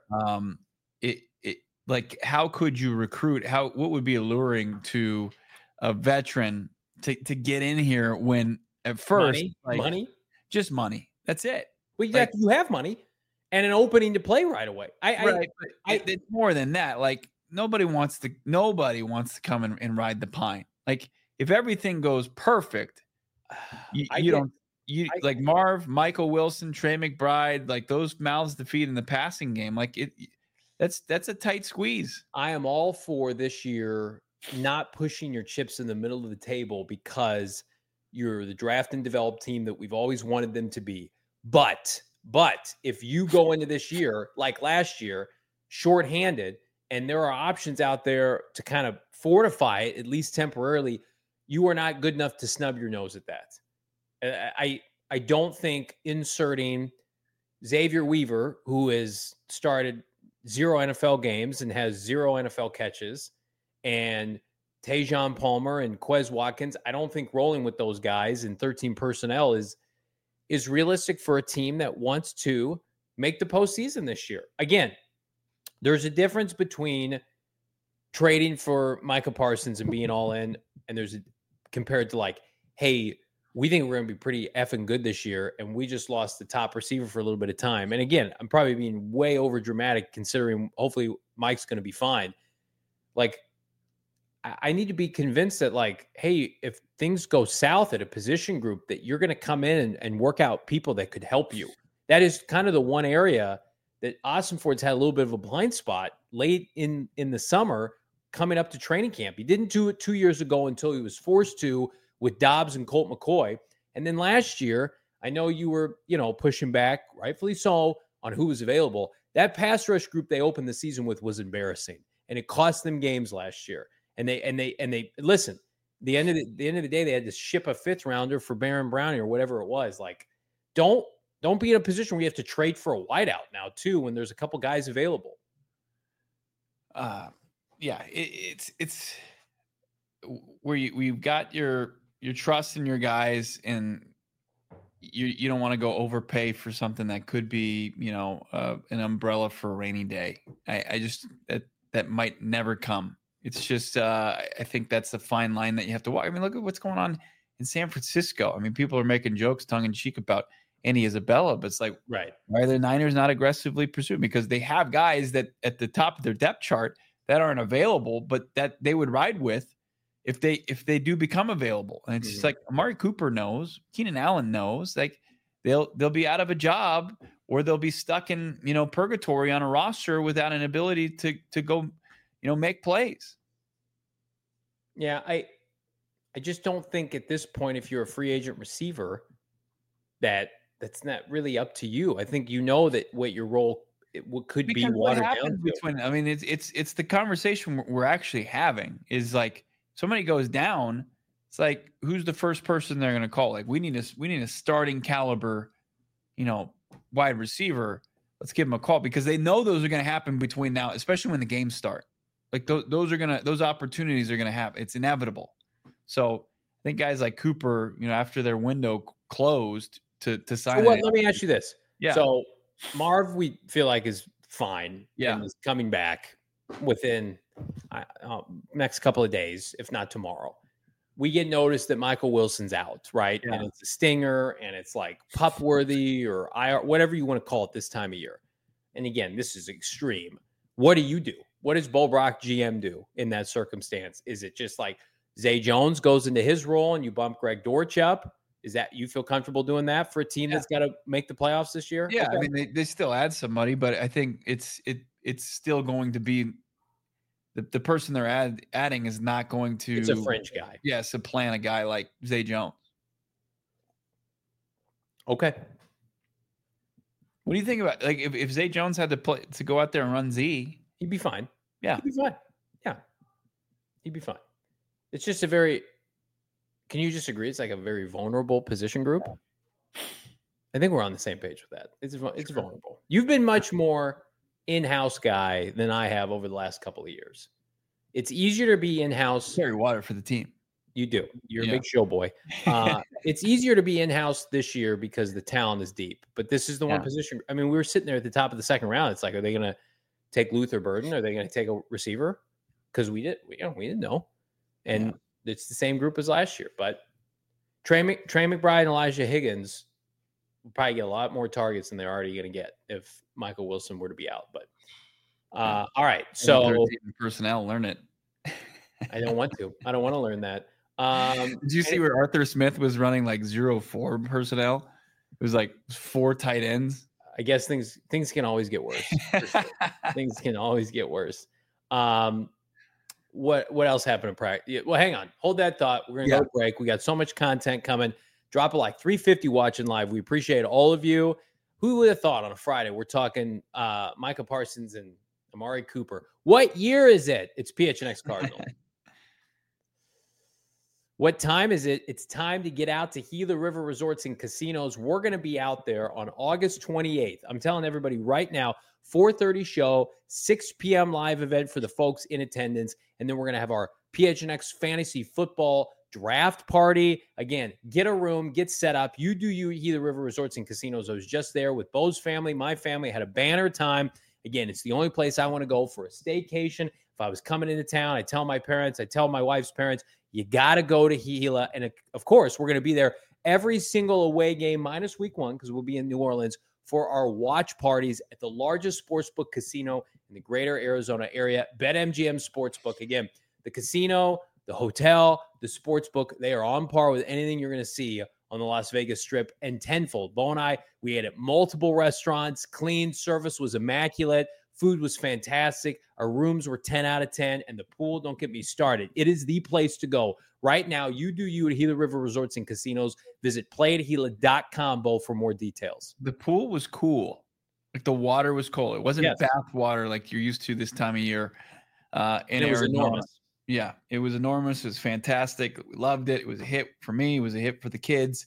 Like how could you recruit? What would be alluring to a veteran to get in here when at first money? Just money. That's it. Well, you have money and an opening to play right away. It's more than that. Like nobody wants to come and ride the pine. Like if everything goes perfect, like Marv, Michael Wilson, Trey McBride, like those mouths to feed in the passing game. Like that's a tight squeeze. I am all for this year not pushing your chips in the middle of the table because you're the draft and develop team that we've always wanted them to be. But if you go into this year, like last year, shorthanded, and there are options out there to kind of fortify it, at least temporarily, you are not good enough to snub your nose at that. I don't think inserting, Xavier Weaver, who has started 0 NFL games and has 0 NFL catches, and Tajon Palmer and Quez Watkins, I don't think rolling with those guys in 13 personnel is realistic for a team that wants to make the postseason this year. Again, there's a difference between trading for Micah Parsons and being all in, and compared to like, hey, we think we're going to be pretty effing good this year, and we just lost the top receiver for a little bit of time. And again, I'm probably being way over dramatic considering hopefully Mike's going to be fine. Like, I need to be convinced that, like, hey, if things go south at a position group, that you're going to come in and work out people that could help you. That is kind of the one area that Ossenfort's had a little bit of a blind spot late in the summer coming up to training camp. He didn't do it 2 years ago until he was forced to with Dobbs and Colt McCoy. And then last year, I know you were, pushing back, rightfully so, on who was available. That pass rush group they opened the season with was embarrassing, and it cost them games last year. And they listen. The end of the day, they had to ship a 5th rounder for Baron Browning or whatever it was. Like, don't be in a position where you have to trade for a wideout now too when there's a couple guys available. Yeah, it's where you've got your trust in your guys, and you don't want to go overpay for something that could be, an umbrella for a rainy day. I just that might never come. It's just I think that's the fine line that you have to walk. I mean, look at what's going on in San Francisco. I mean, people are making jokes tongue in cheek about Andy Isabella, but it's like, right, why are the Niners not aggressively pursuing? Because they have guys that at the top of their depth chart that aren't available, but that they would ride with if they do become available. And it's just like Amari Cooper knows, Keenan Allen knows, like they'll be out of a job, or they'll be stuck in, purgatory on a roster without an ability to go, make plays. Yeah, I just don't think at this point, if you're a free agent receiver, that's not really up to you. I think that what your role could be watered down. I mean, it's the conversation we're actually having is like, somebody goes down, it's like, who's the first person they're going to call? Like, we need a starting caliber, wide receiver. Let's give them a call, because they know those are going to happen between now, especially when the games start. Like those opportunities are going to happen. It's inevitable. So I think guys like Cooper, after their window closed to sign. Let me ask you this. Yeah. So Marv, we feel like is fine. Yeah. And is coming back within next couple of days, if not tomorrow. We get notice that Michael Wilson's out, right? Yeah. And it's a stinger, and it's like pup worthy or IR, whatever you want to call it this time of year. And again, this is extreme. What do you do? What does Bo Brock GM do in that circumstance? Is it just like Zay Jones goes into his role and you bump Greg Dortch up? Is that, you feel comfortable doing that for a team that's got to make the playoffs this year? Yeah, okay. I mean, they still add somebody, but I think it's still going to be the person they're adding is not going to. It's a fringe guy. Yeah, supplant a guy like Zay Jones. Okay. What do you think about, like, if Zay Jones had to go out there and run Z? He'd be fine. Yeah. He'd be fine. Yeah. He'd be fine. It's just can you just agree? It's like a very vulnerable position group. I think we're on the same page with that. It's vulnerable. You've been much more in-house guy than I have over the last couple of years. It's easier to be in-house. Carry water for the team. You do. You're a big show boy. It's easier to be in-house this year because the talent is deep. But this is the one position. I mean, we were sitting there at the top of the second round. It's like, are they going to take Luther Burden? Are they going to take a receiver? Because we didn't know. And it's the same group as last year. But Trey McBride and Elijah Higgins will probably get a lot more targets than they're already going to get if Michael Wilson were to be out. But all right. So personnel, learn it. I don't want to. I don't want to learn that. Did you see where Arthur Smith was running like 0-4 personnel? It was like 4 tight ends. I guess things can always get worse. Sure. Things can always get worse. What else happened in practice? Well, hang on. Hold that thought. We're going to go to break. We got so much content coming. Drop it like 350 watching live. We appreciate all of you. Who would have thought on a Friday we're talking Micah Parsons and Amari Cooper? What year is it? It's PHNX Cardinal. What time is it? It's time to get out to Gila River Resorts and Casinos. We're going to be out there on August 28th. I'm telling everybody right now, 4:30 show, 6 p.m. live event for the folks in attendance. And then we're going to have our PHNX Fantasy Football Draft Party. Again, get a room, get set up. You do you at Gila River Resorts and Casinos. I was just there with Bo's family, my family, had a banner time. Again, it's the only place I want to go for a staycation. If I was coming into town, I tell my parents, I tell my wife's parents, you got to go to Gila. And of course, we're going to be there every single away game minus week 1 because we'll be in New Orleans for our watch parties at the largest sportsbook casino in the greater Arizona area, BetMGM Sportsbook. Again, the casino, the hotel, the sportsbook, they are on par with anything you're going to see on the Las Vegas Strip and tenfold. Bo and I, we ate at multiple restaurants. Clean service was immaculate. Food was fantastic. Our rooms were 10 out of 10. And the pool, don't get me started. It is the place to go. Right now, you do you at Gila River Resorts and Casinos. Visit playatgila.com, Bo, for more details. The pool was cool. Like the water was cold. It wasn't bath water like you're used to this time of year in it was Arizona. Enormous. Yeah, it was enormous. It was fantastic. We loved it. It was a hit for me. It was a hit for the kids.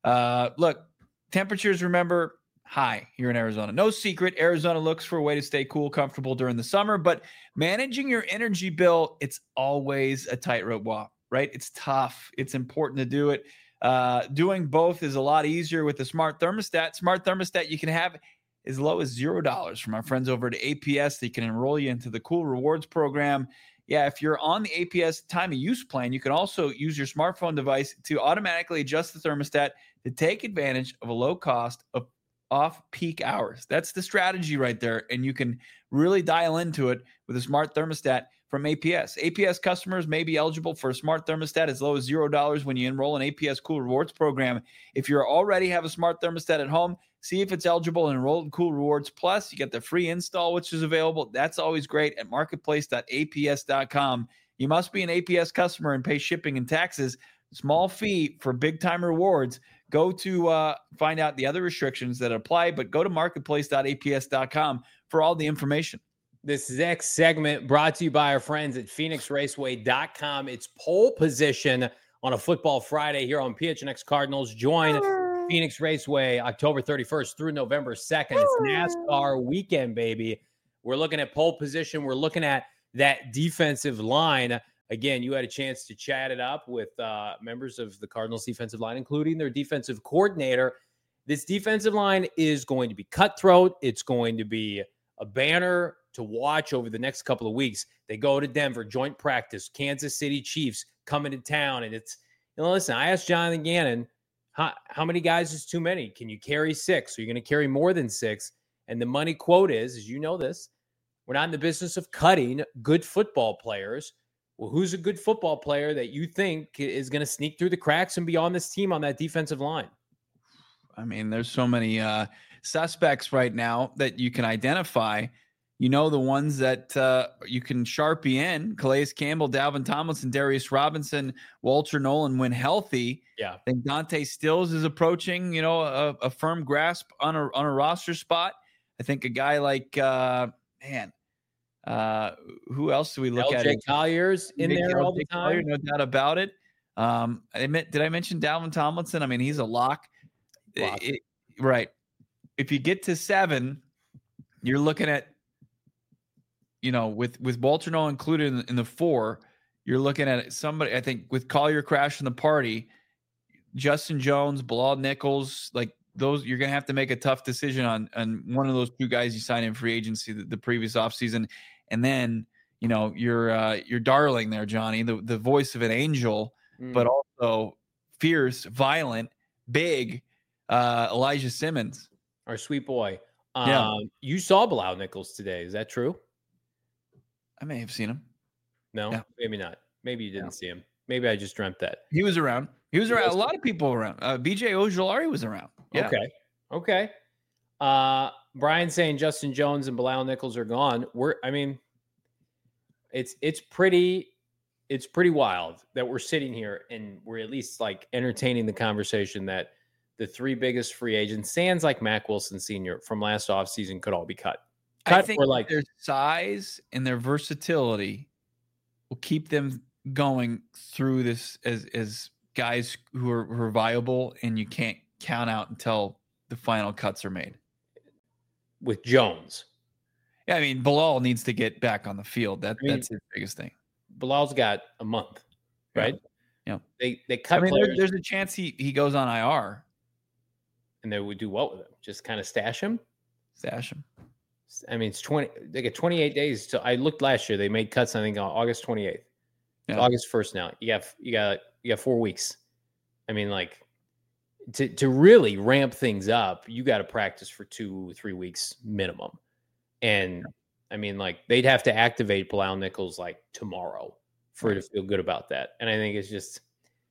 Look, temperatures, remember, high here in Arizona. No secret, Arizona looks for a way to stay cool, comfortable during the summer, but managing your energy bill, it's always a tightrope walk, right? It's tough. It's important to do it. Doing both is a lot easier with the smart thermostat. Smart thermostat you can have as low as $0 from our friends over at APS. They can enroll you into the Cool Rewards program. Yeah, if you're on the APS time of use plan, you can also use your smartphone device to automatically adjust the thermostat to take advantage of a low cost of off-peak hours. That's the strategy right there, and you can really dial into it with a smart thermostat from APS. APS customers may be eligible for a smart thermostat as low as $0 when you enroll in APS Cool Rewards program. If you already have a smart thermostat at home, see if it's eligible and enroll in Cool Rewards. Plus, you get the free install, which is available. That's always great at marketplace.aps.com. You must be an APS customer and pay shipping and taxes. Small fee for big-time rewards. Go to find out the other restrictions that apply, but go to marketplace.aps.com for all the information. This next segment brought to you by our friends at PhoenixRaceway.com. It's pole position on a football Friday here on PHNX Cardinals. Join Phoenix Raceway October 31st through November 2nd. It's NASCAR weekend, baby. We're looking at pole position. We're looking at that defensive line. Again, you had a chance to chat it up with members of the Cardinals defensive line, including their defensive coordinator. This defensive line is going to be cutthroat. It's going to be a banner to watch over the next couple of weeks. They go to Denver, joint practice, Kansas City Chiefs coming to town. And it's, listen, I asked Jonathan Gannon, how many guys is too many? Can you carry 6? Are you going to carry more than 6? And the money quote is, as you know this, we're not in the business of cutting good football players. Well, who's a good football player that you think is going to sneak through the cracks and be on this team on that defensive line? I mean, there's so many suspects right now that you can identify. You know, the ones that you can Sharpie in: Calais Campbell, Dalvin Tomlinson, Darius Robinson, Walter Nolan when healthy. Yeah. I think Dante Stills is approaching, a firm grasp on a roster spot. I think a guy like, who else do we look at? LJ Collier's in there all the time. Collier, no doubt about it. Did I mention Dalvin Tomlinson? I mean, he's a lock. Right. If you get to 7, you're looking at, with Walter Nolan included in the 4, you're looking at somebody, I think, with Collier crashing the party, Justin Jones, Bilal Nichols, like those, you're going to have to make a tough decision on one of those 2 guys you signed in free agency the previous offseason. And then, your darling there, Johnny, the voice of an angel, but also fierce, violent, big, Elijah Simmons. Our sweet boy. Yeah. You saw Bilal Nichols today. Is that true? I may have seen him. No, yeah. Maybe not. Maybe you didn't see him. Maybe I just dreamt that. He was around. A lot of people around. BJ Ojolari was around. Yeah. Okay. Brian saying Justin Jones and Bilal Nichols are gone. It's pretty wild that we're sitting here and we're at least like entertaining the conversation that the 3 biggest free agents, sans like Mack Wilson Sr. from last offseason, could all be cut. I think their size and their versatility will keep them going through this as guys who are viable, and you can't count out until the final cuts are made. With Jones. Yeah, I mean, Bilal needs to get back on the field. That's his biggest thing. Bilal's got a month, right? Yeah. They cut players. There's a chance he goes on IR. And they would do what with him? Just kind of stash him? Stash him. I mean, they get 28 days. So I looked last year. They made cuts, I think, on August 28th. It's August 1st now. You got 4 weeks. I mean, like, to really ramp things up, you got to practice for 2-3 weeks minimum. And I mean, like, they'd have to activate Bilal Nichols like tomorrow for it to feel good about that. And I think it's just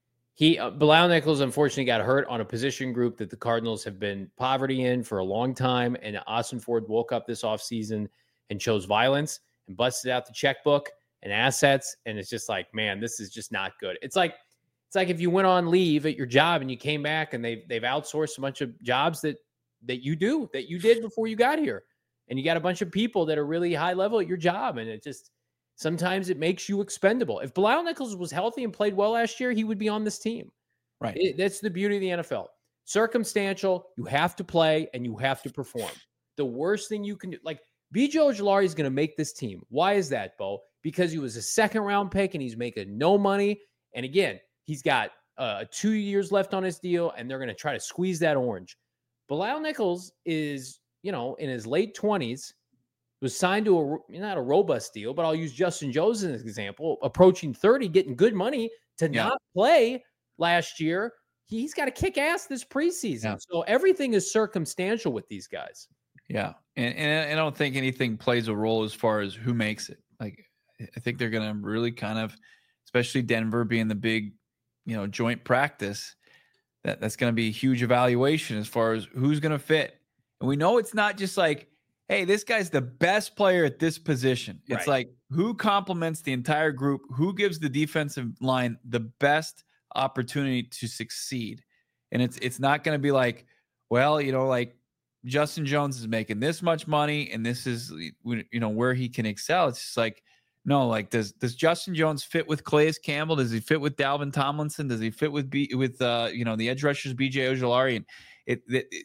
Bilal Nichols unfortunately got hurt on a position group that the Cardinals have been poverty in for a long time. And Austin Ford woke up this offseason and chose violence and busted out the checkbook and assets. And it's just like, man, this is just not good. It's like if you went on leave at your job and you came back and they've outsourced a bunch of jobs that you did before you got here. And you got a bunch of people that are really high level at your job. And it just, sometimes it makes you expendable. If Bilal Nichols was healthy and played well last year, he would be on this team. Right. That's the beauty of the NFL. Circumstantial, you have to play and you have to perform. The worst thing you can do, like B.J. Ojulari is going to make this team. Why is that, Bo? Because he was a second-round pick and he's making no money. And again, he's got 2 years left on his deal, and they're going to try to squeeze that orange. Bilal Nichols is, in his late 20s, was signed to not a robust deal, but I'll use Justin Jones as an example, approaching 30, getting good money to not play last year. He's got to kick ass this preseason. Yeah. So everything is circumstantial with these guys. Yeah. And I don't think anything plays a role as far as who makes it. Like, I think they're going to really kind of, especially Denver being the big, joint practice, that's going to be a huge evaluation as far as who's going to fit. And we know it's not just like, hey, this guy's the best player at this position. It's like who complements the entire group, who gives the defensive line the best opportunity to succeed. And it's not going to be like, well, like Justin Jones is making this much money and this is, where he can excel. It's just like, no, like does Justin Jones fit with Calais Campbell? Does he fit with Dalvin Tomlinson? Does he fit with the edge rushers, B.J. Ojulari? And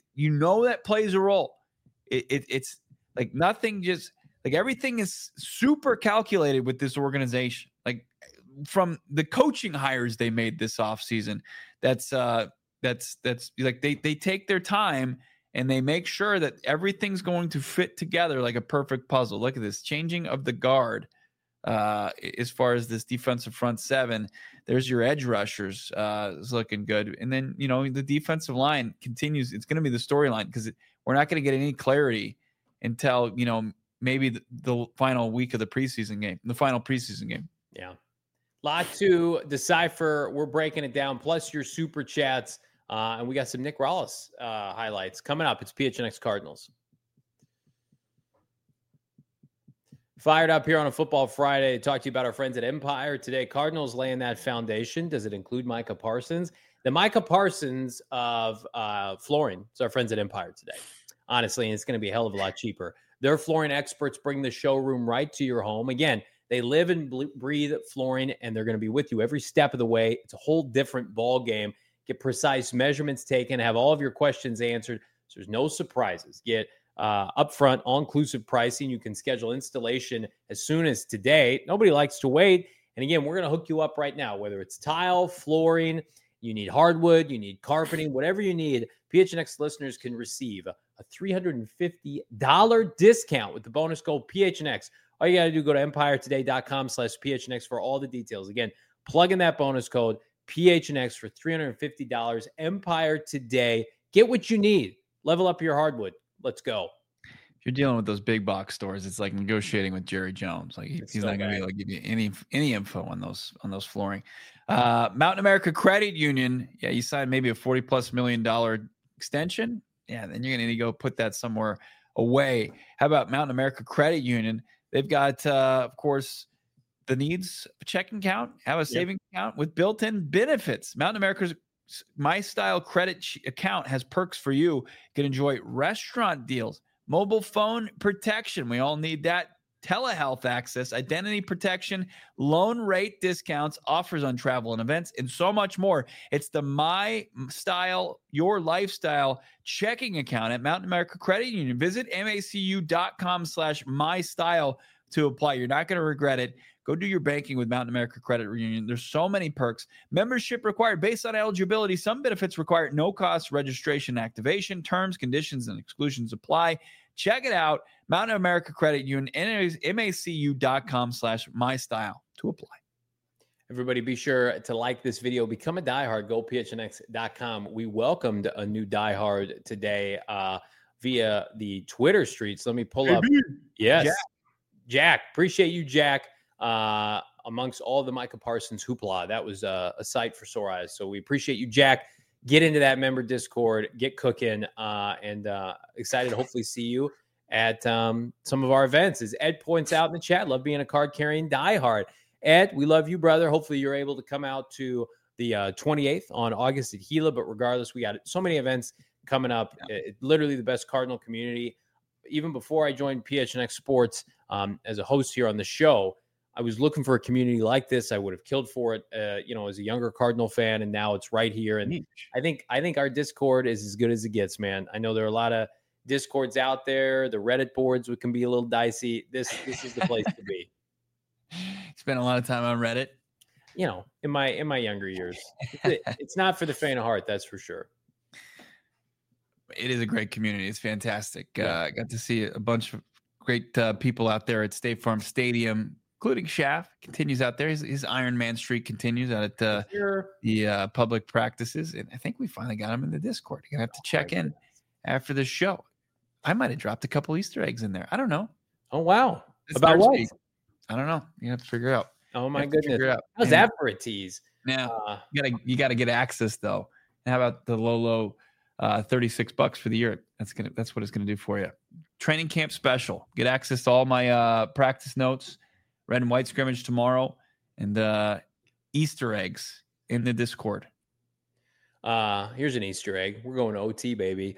that plays a role. It's like nothing, just like everything is super calculated with this organization. Like from the coaching hires they made this offseason, that's like they take their time and they make sure that everything's going to fit together like a perfect puzzle. Look at this changing of the guard. As far as this defensive front seven, there's your edge rushers is looking good. And then, the defensive line continues. It's going to be the storyline because we're not going to get any clarity until, maybe the final week of the final preseason game. Yeah. Lot to decipher. We're breaking it down, plus your super chats. And we got some Nick Rallis highlights coming up. It's PHNX Cardinals. Fired up here on a Football Friday to talk to you about our friends at Empire today. Cardinals laying that foundation. Does it include Micah Parsons? The Micah Parsons of flooring is our friends at Empire today. Honestly, and it's going to be a hell of a lot cheaper. Their flooring experts bring the showroom right to your home. Again, they live and breathe flooring, and they're going to be with you every step of the way. It's a whole different ball game. Get precise measurements taken, have all of your questions answered. So there's no surprises. Get upfront, all-inclusive pricing. You can schedule installation as soon as today. Nobody likes to wait. And again, we're going to hook you up right now, whether it's tile, flooring, you need hardwood, you need carpeting, whatever you need. PHNX listeners can receive a $350 discount with the bonus code PHNX. All you got to do, go to empiretoday.com/PHNX for all the details. Again, plug in that bonus code PHNX for $350. Empire Today. Get what you need. Level up your hardwood. Let's go. If you're dealing with those big box stores, it's like negotiating with Jerry Jones. Like he's not going to be able to give you any info on those flooring. Mountain America Credit Union. Yeah, you signed maybe a $40+ million extension. Yeah, then you're going to need to go put that somewhere away. How about Mountain America Credit Union? They've got, of course, the needs of a checking account, have a savings account with built-in benefits. Mountain America's My Style Credit account has perks for you. You can enjoy restaurant deals, mobile phone protection. We all need that telehealth access, identity protection, loan rate discounts, offers on travel and events, and so much more. It's the My Style, Your Lifestyle checking account at Mountain America Credit Union. Visit macu.com/mystyle to apply. You're not going to regret it. Go do your banking with Mountain America Credit Union. There's so many perks. Membership required based on eligibility. Some benefits require no cost registration activation. Terms, conditions, and exclusions apply. Check it out. Mountain America Credit Union, macu.com/mystyle to apply. Everybody be sure to like this video. Become a diehard. GoPHNX.com. We welcomed a new diehard today via the Twitter streets. Let me pull up. Yes. Jack. Appreciate you, Jack. Amongst all the Micah Parsons hoopla, that was a sight for sore eyes. So we appreciate you, Jack. Get into that member Discord, get cooking, and excited to hopefully see you at some of our events. As Ed points out in the chat, love being a card-carrying diehard. Ed, we love you, brother. Hopefully you're able to come out to the 28th on August at Gila. But regardless, we got so many events coming up. Literally the best Cardinal community. Even before I joined PHNX Sports as a host here on the show, I was looking for a community like this. I would have killed for it, as a younger Cardinal fan, and now it's right here. And I think our Discord is as good as it gets, man. I know there are a lot of Discords out there. The Reddit boards can be a little dicey. This is the place to be. Spent a lot of time on Reddit. In my younger years, it's not for the faint of heart, that's for sure. It is a great community. It's fantastic. Got to see a bunch of great people out there at State Farm Stadium, including Schaff. Continues out there. His Iron Man streak continues out at the public practices. And I think we finally got him in the Discord. You're going to have to check in after the show. I might have dropped a couple Easter eggs in there. I don't know. Oh, wow. It's about what? Week. I don't know. You have to figure it out. Oh, my goodness. How's that for a tease? Now, you got to get access, though. And how about the low $36 for the year? That's what it's going to do for you. Training camp special. Get access to all my practice notes. Red and white scrimmage tomorrow, and Easter eggs in the Discord. Here's an Easter egg. We're going to OT, baby.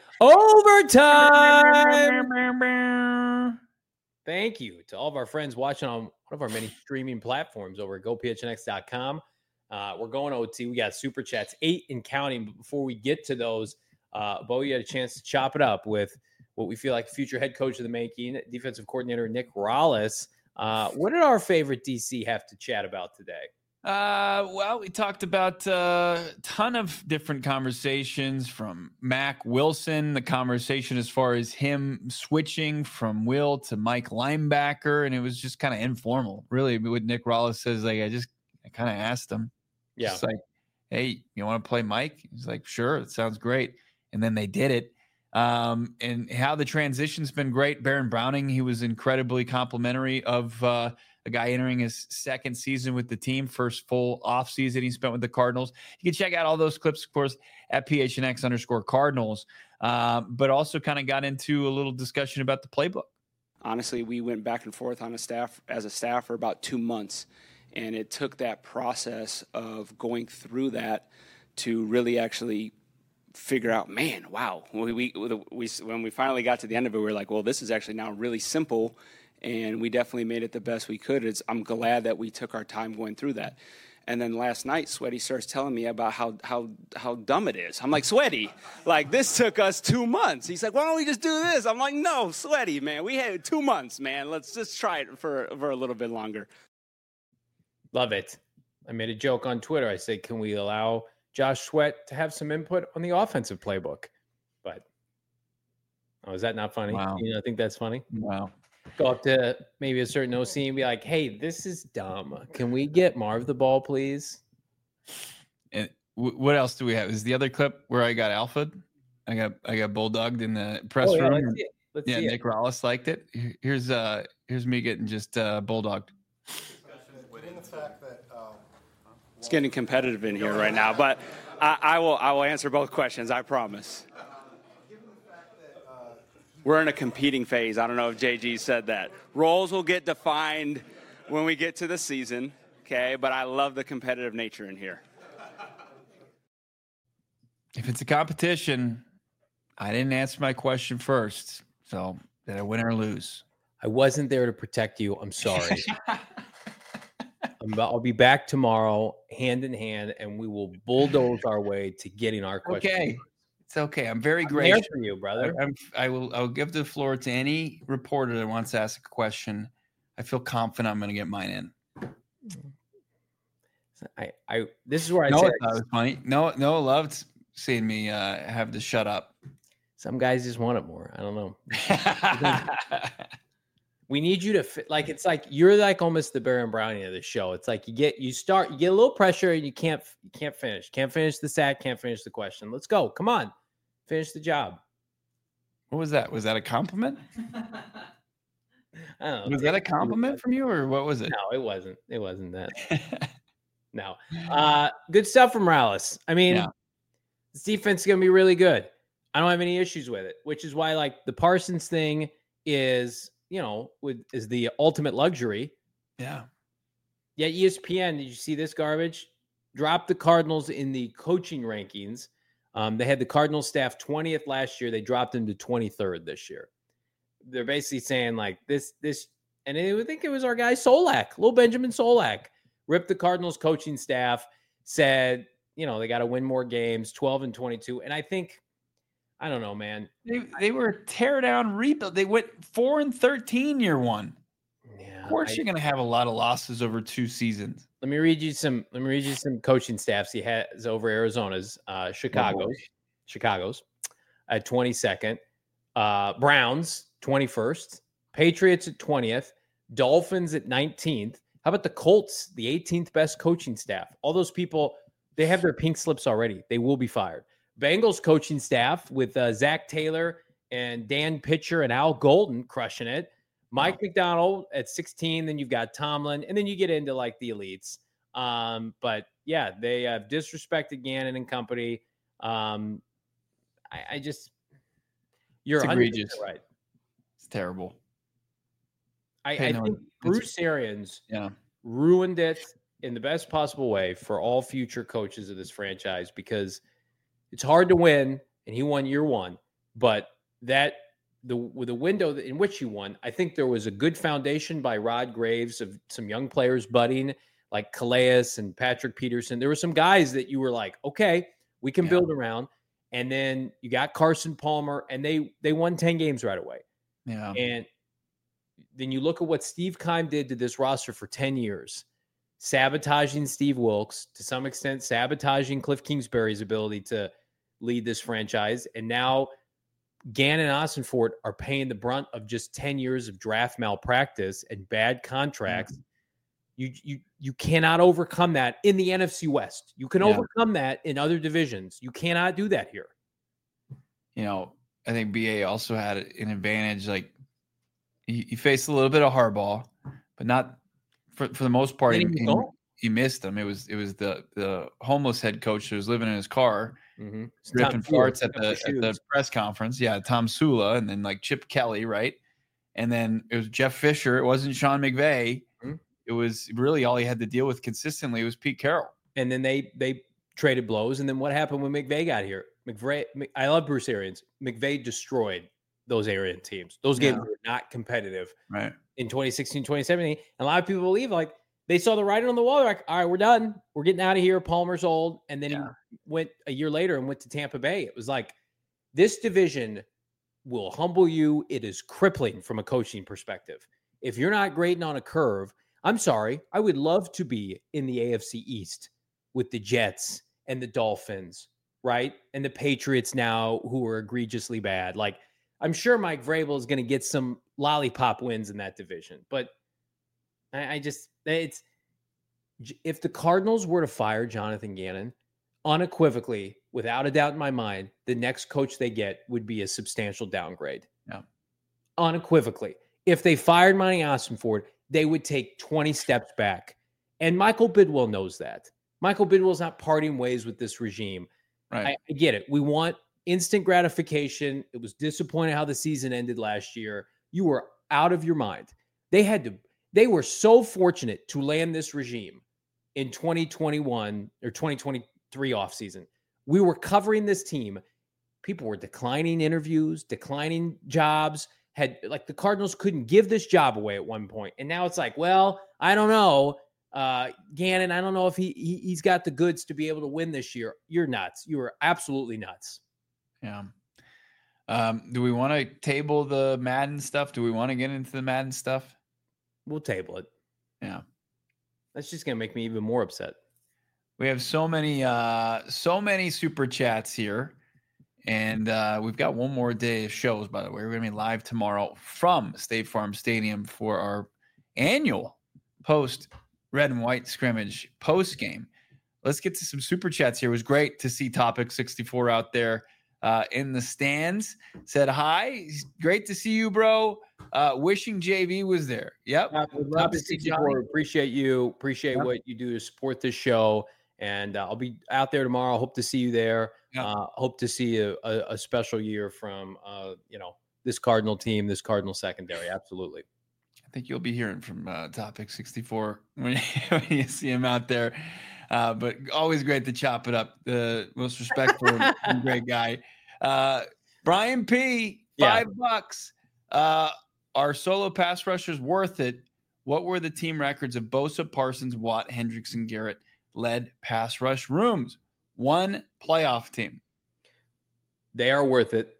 Overtime! Thank you to all of our friends watching on one of our many streaming platforms over at GoPHNX.com. We're going to OT. We got Super Chats, 8 and counting. But before we get to those, Bo, you had a chance to chop it up with what we feel like future head coach of the making, defensive coordinator Nick Rallis. What did our favorite DC have to chat about today? Well, we talked about a ton of different conversations from Mac Wilson, the conversation as far as him switching from Will to Mike linebacker, and it was just kind of informal. Really, what Nick Rallis says, I kind of asked him. Yeah. Just like, hey, you want to play Mike? He's like, sure, it sounds great. And then they did it. And how the transition's been great. Baron Browning, he was incredibly complimentary of a guy entering his second season with the team, first full offseason he spent with the Cardinals. You can check out all those clips, of course, at PHNX_Cardinals, but also kind of got into a little discussion about the playbook. Honestly, we went back and forth on as a staff for about 2 months, and it took that process of going through that to really actually figure out, man, wow. When we finally got to the end of it, we were like, well, this is actually now really simple, and we definitely made it the best we could. I'm glad that we took our time going through that. And then last night, Sweaty starts telling me about how dumb it is. I'm like, Sweaty, like this took us 2 months. He's like, why don't we just do this? I'm like, no, Sweaty, man, we had 2 months, man. Let's just try it for a little bit longer. Love it. I made a joke on Twitter. I said, can we allow Josh Sweat to have some input on the offensive playbook? But is that not funny? Wow. I think that's funny. Wow. Go up to maybe a certain OC and be like, hey, this is dumb. Can we get Marv the ball, please? And what else do we have? Is the other clip where I got alphaed? I got bulldogged in the press room. Let's see it. Nick Rallis liked it. Here's me getting just bulldogged. It's getting competitive in here right now, but I will answer both questions, I promise. We're in a competing phase. I don't know if JG said that. Roles will get defined when we get to the season, okay? But I love the competitive nature in here. If it's a competition, I didn't answer my question first. So did I win or lose? I wasn't there to protect you. I'm sorry. I'll be back tomorrow, hand in hand, and we will bulldoze our way to getting our question. Okay. It's okay. I'm very I'm gracious there for you, brother. I'll give the floor to any reporter that wants to ask a question. I feel confident I'm going to get mine in. This is where I No, say that was funny. No, loved seeing me have to shut up. some guys just want it more. I don't know. We need you to like. It's like you're like almost the Baron Browning of the show. It's like you get a little pressure and you can't finish. Can't finish the sack. Can't finish the question. Let's go. Come on, finish the job. What was that? Was that a compliment? I don't know. Was that a compliment from you, or what was it? No, it wasn't. It wasn't that. No. Good stuff from Morales. I mean, this defense is going to be really good. I don't have any issues with it, which is why like the Parsons thing is, is the ultimate luxury. Yeah. Yeah. ESPN, did you see this garbage? Dropped the Cardinals in the coaching rankings. They had the Cardinals staff 20th last year. They dropped them to 23rd this year. They're basically saying like this, and I think it was our guy Solak, little Benjamin Solak, ripped the Cardinals coaching staff, said, they got to win more games, 12-22. And I think, I don't know, man. They were a tear down rebuild. They went 4-13 year one. Yeah, of course, you're going to have a lot of losses over 2 seasons. Let me read you some coaching staffs he has over Arizona's, Chicago's at 22nd, Browns 21st, Patriots at 20th, Dolphins at 19th. How about the Colts, the 18th best coaching staff? All those people, they have their pink slips already. They will be fired. Bengals coaching staff with Zach Taylor and Dan Pitcher and Al Golden crushing it. Mike McDonald at 16. Then you've got Tomlin, and then you get into like the elites. But yeah, they have disrespected Gannon and company. You're egregious, right? It's terrible. I think Bruce Arians ruined it in the best possible way for all future coaches of this franchise because it's hard to win, and he won year one. But with the window in which he won, I think there was a good foundation by Rod Graves of some young players budding, like Calais and Patrick Peterson. There were some guys that you were like, okay, we can build around. And then you got Carson Palmer, and they won 10 games right away. Yeah. And then you look at what Steve Keim did to this roster for 10 years, sabotaging Steve Wilkes, to some extent sabotaging Cliff Kingsbury's ability to lead this franchise. And now Gannon and Ossenfort are paying the brunt of just 10 years of draft malpractice and bad contracts. Mm-hmm. You cannot overcome that in the NFC West. You can overcome that in other divisions. You cannot do that here. I think BA also had an advantage. Like he faced a little bit of hardball, but not for the most part. He missed them. It was the homeless head coach who was living in his car, ripping farts at the press conference. Yeah, Tom Sula, and then like Chip Kelly, right? And then it was Jeff Fisher. It wasn't Sean McVay. Mm-hmm. It was really all he had to deal with consistently was Pete Carroll. And then they traded blows. And then what happened when McVay got here? I love Bruce Arians. McVay destroyed those Arians teams. Those games were not competitive in 2016, 2017. And a lot of people believe like they saw the writing on the wall. They're like, all right, we're done. We're getting out of here. Palmer's old. And then he went a year later and went to Tampa Bay. It was like, this division will humble you. It is crippling from a coaching perspective. If you're not grading on a curve, I'm sorry. I would love to be in the AFC East with the Jets and the Dolphins, right? And the Patriots now who are egregiously bad. Like, I'm sure Mike Vrabel is going to get some lollipop wins in that division. But if the Cardinals were to fire Jonathan Gannon, unequivocally, without a doubt in my mind, the next coach they get would be a substantial downgrade. Yeah. Unequivocally. If they fired Monty Ossenfort, they would take 20 steps back. And Michael Bidwell knows that. Michael Bidwell's not parting ways with this regime. Right. I get it. We want instant gratification. It was disappointing how the season ended last year. You were out of your mind. They were so fortunate to land this regime in 2021 or 2023 offseason. We were covering this team. People were declining interviews, declining jobs, had like the Cardinals couldn't give this job away at one point. And now it's like, well, I don't know. Gannon, I don't know if he's got the goods to be able to win this year. You're nuts. You are absolutely nuts. Yeah. Do we want to table the Madden stuff? Do we want to get into the Madden stuff? We'll table it. Yeah. That's just going to make me even more upset. We have so many super chats here. And we've got one more day of shows, by the way. We're going to be live tomorrow from State Farm Stadium for our annual post red and white scrimmage post game. Let's get to some super chats here. It was great to see Topic 64 out there in the stands. Said hi. Great to see you, bro. Wishing JV was there. Yep. Topic 64. Appreciate you. Appreciate what you do to support this show. And I'll be out there tomorrow. Hope to see you there. Hope to see a special year from this Cardinal team, this Cardinal secondary. Absolutely. I think you'll be hearing from Topic 64 when you see him out there. But always great to chop it up. The most respectful and great guy. Brian P, $5. Are solo pass rushers worth it? What were the team records of Bosa, Parsons, Watt, Hendrickson, Garrett led pass rush rooms? One playoff team. They are worth it.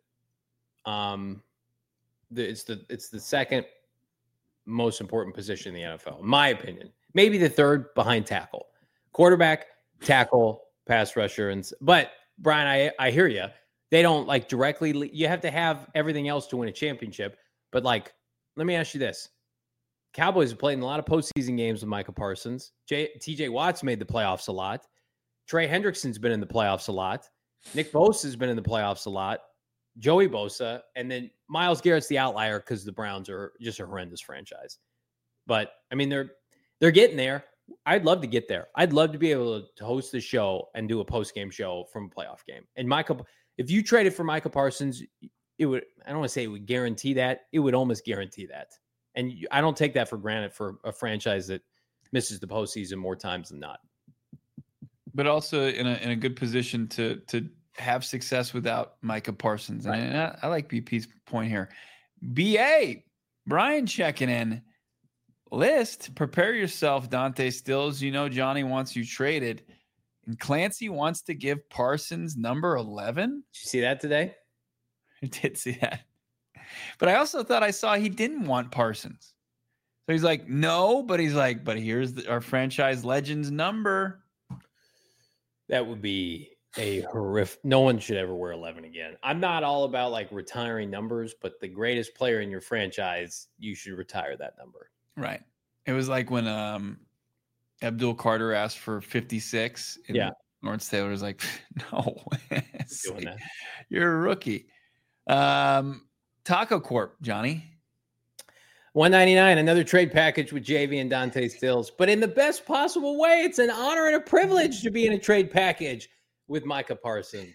It's the second most important position in the NFL, in my opinion. Maybe the third behind tackle, quarterback, tackle, pass rusher, but Brian, I hear you. They don't like directly. You have to have everything else to win a championship. But like, let me ask you this: Cowboys have played in a lot of postseason games with Micah Parsons. T.J. Watt's made the playoffs a lot. Trey Hendrickson's been in the playoffs a lot. Nick Bosa's been in the playoffs a lot. Joey Bosa, and then Myles Garrett's the outlier because the Browns are just a horrendous franchise. But I mean, they're getting there. I'd love to get there. I'd love to be able to host the show and do a post-game show from a playoff game. And if you traded for Micah Parsons, it would, I don't want to say it would guarantee that. It would almost guarantee that. And I don't take that for granted for a franchise that misses the postseason more times than not. But also in a good position to have success without Micah Parsons. Right. And I like BP's point here. BA, Brian checking in. List, prepare yourself, Dante Stills. You know Johnny wants you traded. And Clancy wants to give Parsons number 11. Did you see that today? I did see that. But I also thought I saw he didn't want Parsons. So he's like, no, but he's like, but here's our franchise legend's number. That would be a horrific. No one should ever wear 11 again. I'm not all about like retiring numbers, but the greatest player in your franchise, you should retire that number. Right. It was like when Abdul Carter asked for 56. And Lawrence Taylor was like, no, like, you're a rookie. Taco Corp, Johnny. $199, another trade package with JV and Dante Stills, but in the best possible way. It's an honor and a privilege to be in a trade package with Micah Parsons.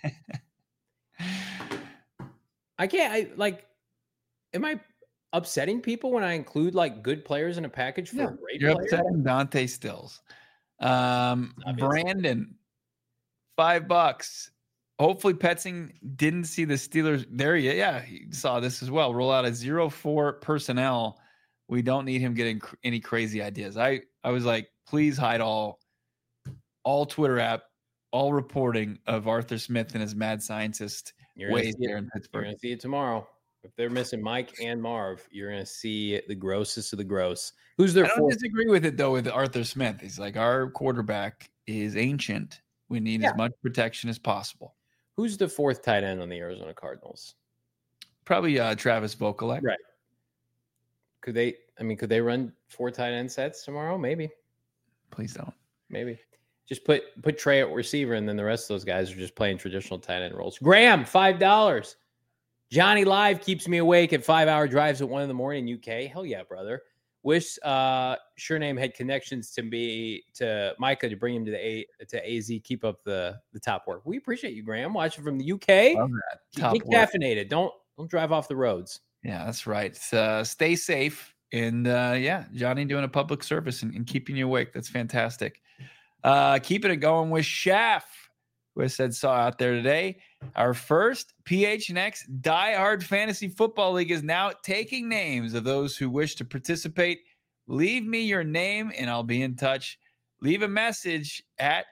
Am I upsetting people when I include like good players in a package for a great player? You're upsetting Dante Stills. Brandon, $5. Hopefully Petzing didn't see the Steelers there yet. Yeah, he saw this as well. Roll out a 0-4 personnel. We don't need him getting any crazy ideas. I was like, please hide all Twitter app, all reporting of Arthur Smith and his mad scientist ways there in Pittsburgh. You're going to see it tomorrow. If they're missing Mike and Marv, you're going to see the grossest of the gross. Who's their I don't disagree with it, though, with Arthur Smith. He's like, our quarterback is ancient. We need as much protection as possible. Who's the fourth tight end on the Arizona Cardinals? Probably Travis Vokalek. Right. Could they run 4 tight end sets tomorrow? Maybe. Please don't. Maybe. Just put Trey at receiver, and then the rest of those guys are just playing traditional tight end roles. Graham, $5. Johnny Live keeps me awake at 5-hour drives at 1 a.m. UK. Hell yeah, brother. Wish Sure Name had connections to Micah to bring him to AZ. Keep up the top work. We appreciate you, Graham. Watching from the UK. Love that. Top Get caffeinated. Don't drive off the roads. Yeah, that's right. Stay safe. And Johnny doing a public service and keeping you awake. That's fantastic. Keeping it going with Chef. who I said saw out there today. Our first PHNX Die Hard Fantasy Football League is now taking names of those who wish to participate. Leave me your name and I'll be in touch. Leave a message at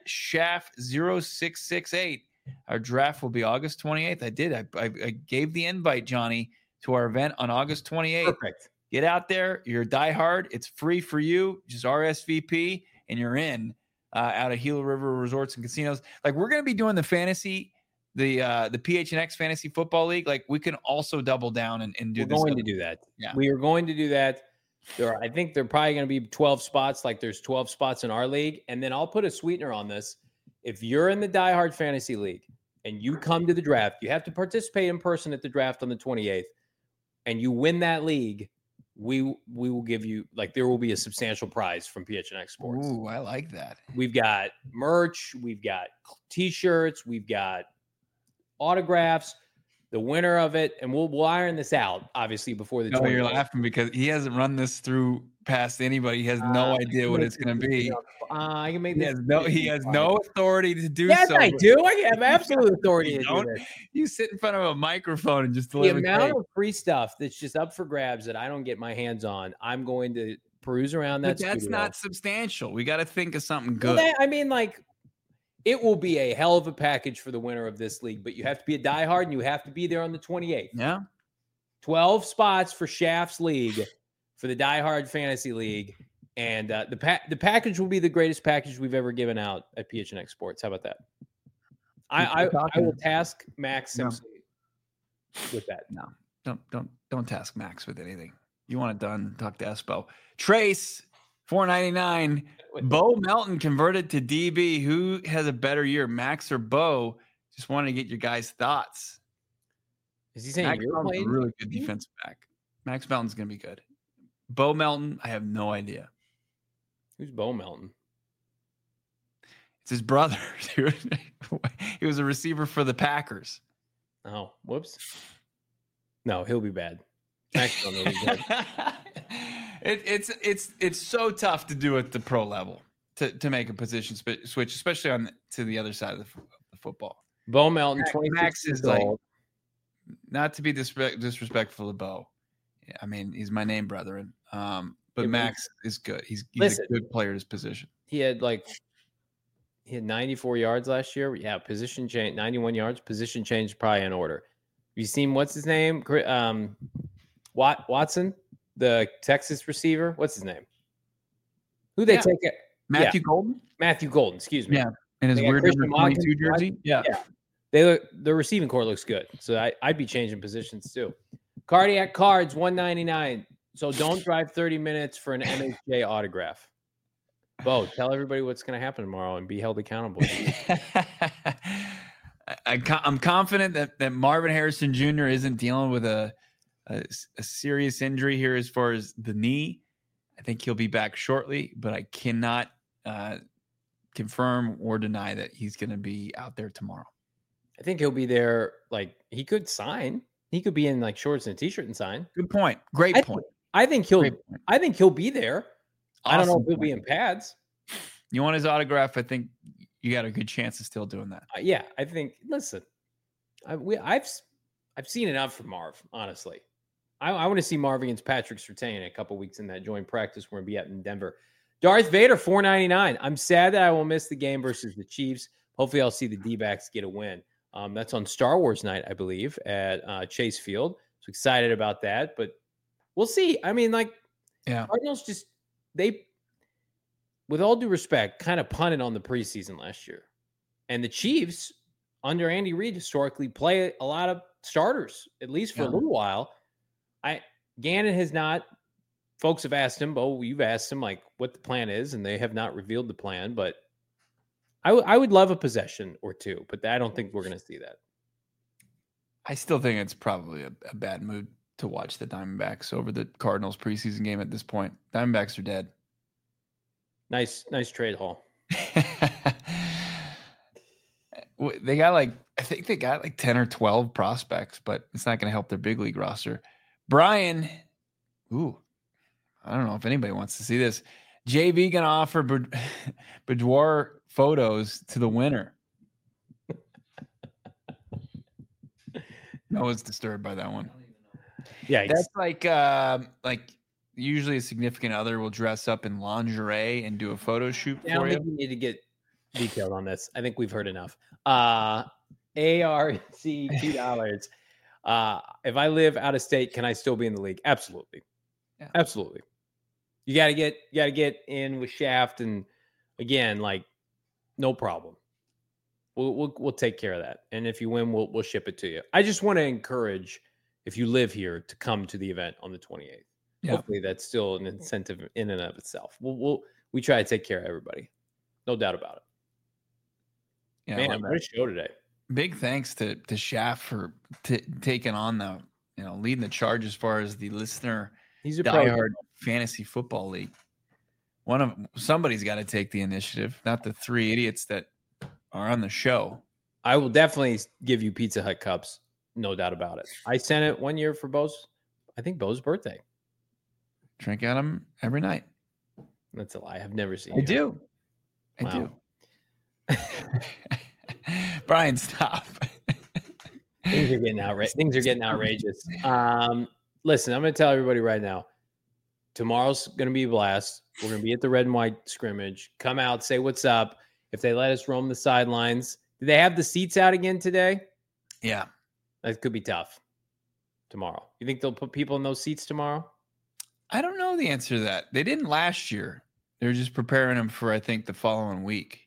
Shaft0668. Our draft will be August 28th. I did. I gave the invite, Johnny, to our event on August 28th. Perfect. Get out there. You're a diehard. It's free for you. Just RSVP and you're in out of Gila River Resorts and Casinos. Like, we're going to be doing the fantasy, the PHNX Fantasy Football League. Like, we can also double down and do this. We're going to do that. Yeah. We are going to do that. I think there are probably going to be 12 spots, like there's 12 spots in our league. And then I'll put a sweetener on this. If you're in the Die Hard Fantasy League and you come to the draft, you have to participate in person at the draft on the 28th, and you win that league, we will give you, like, there will be a substantial prize from PHNX Sports. Ooh, I like that. We've got merch, we've got T-shirts, we've got autographs. The winner of it, and we'll iron this out, obviously, before the. No, you're laughing because he hasn't run this through past anybody. He has no idea what it's going to be. I can make this. He has no authority to do yes, so. I do. I have absolute authority to do this. You sit in front of a microphone and just The deliver. amount of free stuff that's just up for grabs that I don't get my hands on, I'm going to peruse around that. But that's studio. not substantial. We got to think of something good. Well, I mean, like, it will be a hell of a package for the winner of this league, but you have to be a diehard and you have to be there on the 28th. Yeah. 12 spots for Shaft's League for the Die Hard Fantasy League. And the package will be the greatest package we've ever given out at PHNX Sports. How about that? I will task Max Simpson with that. No, don't task Max with anything. You want it done, talk to Espo. Trace, $4.99. Bo Melton converted to DB. Who has a better year, Max or Bo? Just wanted to get your guys' thoughts. Is he saying Max you're Melton's playing? a really good defensive back. Max Melton's going to be good. Bo Melton, I have no idea. Who's Bo Melton? It's his brother. He was a receiver for the Packers. Oh, whoops. No, he'll be bad. Max Melton will be bad. It's so tough to do at the pro level to make a position switch, especially on to the other side of the football. Bo Melton, 26 Max is years like, old. not to be disrespectful to Bo. I mean, he's my name, brethren. But Yeah, Max is good. He's Listen. a good player at his position. He had 94 yards last year. Yeah, position change, 91 yards. Position change probably in order. Have you seen what's his name? Watson, the Texas receiver. What's his name? Who they take it? Matthew Golden? Matthew Golden, excuse me. Yeah. And his They got weird Christian number 22 Watkins. jersey. Yeah. The receiving core looks good. So I'd be changing positions too. Cardiac Cards, $199. So don't drive 30 minutes for an MHJ autograph. Bo, tell everybody what's going to happen tomorrow and be held accountable. I'm confident that Marvin Harrison Jr. isn't dealing with a serious injury here as far as the knee. I think he'll be back shortly, but I cannot confirm or deny that he's going to be out there tomorrow. I think he'll be there. Like, he could sign. He could be in like shorts and a t-shirt and sign. Good point. Great point. I think he'll Great point. I think he'll be there. I don't know Awesome if he'll be point. in pads. You want his autograph? I think you got a good chance of still doing that. Yeah, I think. Listen, I've seen enough from Marv. Honestly, I want to see Marv against Patrick Surtain in a couple weeks in that joint practice we're gonna be at in Denver. Darth Vader, $4.99. I'm sad that I will miss the game versus the Chiefs. Hopefully, I'll see the D-backs get a win. That's on Star Wars night, I believe, at Chase Field. So excited about that, but we'll see. I mean, like, Yeah. Cardinals they, with all due respect, kind of punted on the preseason last year. And the Chiefs, under Andy Reid, historically play a lot of starters, at least for a little while. Gannon has not. Folks have asked him, Bo, you've asked him, like, what the plan is, and they have not revealed the plan. But I would love a possession or two, but I don't think we're going to see that. I still think it's probably a bad mood to watch the Diamondbacks over the Cardinals preseason game at this point. Diamondbacks are dead. Nice trade haul. They got I think they got 10 or 12 prospects, but it's not going to help their big league roster. Brian, I don't know if anybody wants to see this. JV going to offer boudoir photos to the winner. Noah's disturbed by that one. Yeah, That's like usually a significant other will dress up in lingerie and do a photo shoot I don't for think you. we need to get detailed on this. I think we've heard enough. ARC $2. If I live out of state, can I still be in the league? Absolutely. Yeah. Absolutely. You gotta get in with Shaft, and again, like, no problem. We'll take care of that. And if you win, we'll ship it to you. I just want to encourage, if you live here, to come to the event on the 28th. Yeah. Hopefully that's still an incentive in and of itself. We try to take care of everybody. No doubt about it. Yeah, Man, what a show today. Big thanks to Shaft for taking on leading the charge as far as the listener He's a diehard fantasy football league. Somebody's got to take the initiative, not the three idiots that are on the show. I will definitely give you Pizza Hut cups, no doubt about it. I sent it one year for Bo's birthday. Drink at them every night. That's a lie. I've never seen I you. do. Wow. I do. Brian, stop. Things are getting outrageous. Listen, I'm going to tell everybody right now. Tomorrow's going to be a blast. We're going to be at the red and white scrimmage. Come out, say what's up. If they let us roam the sidelines. Do they have the seats out again today? Yeah. That could be tough tomorrow. You think they'll put people in those seats tomorrow? I don't know the answer to that. They didn't last year. They're just preparing them for, I think, the following week.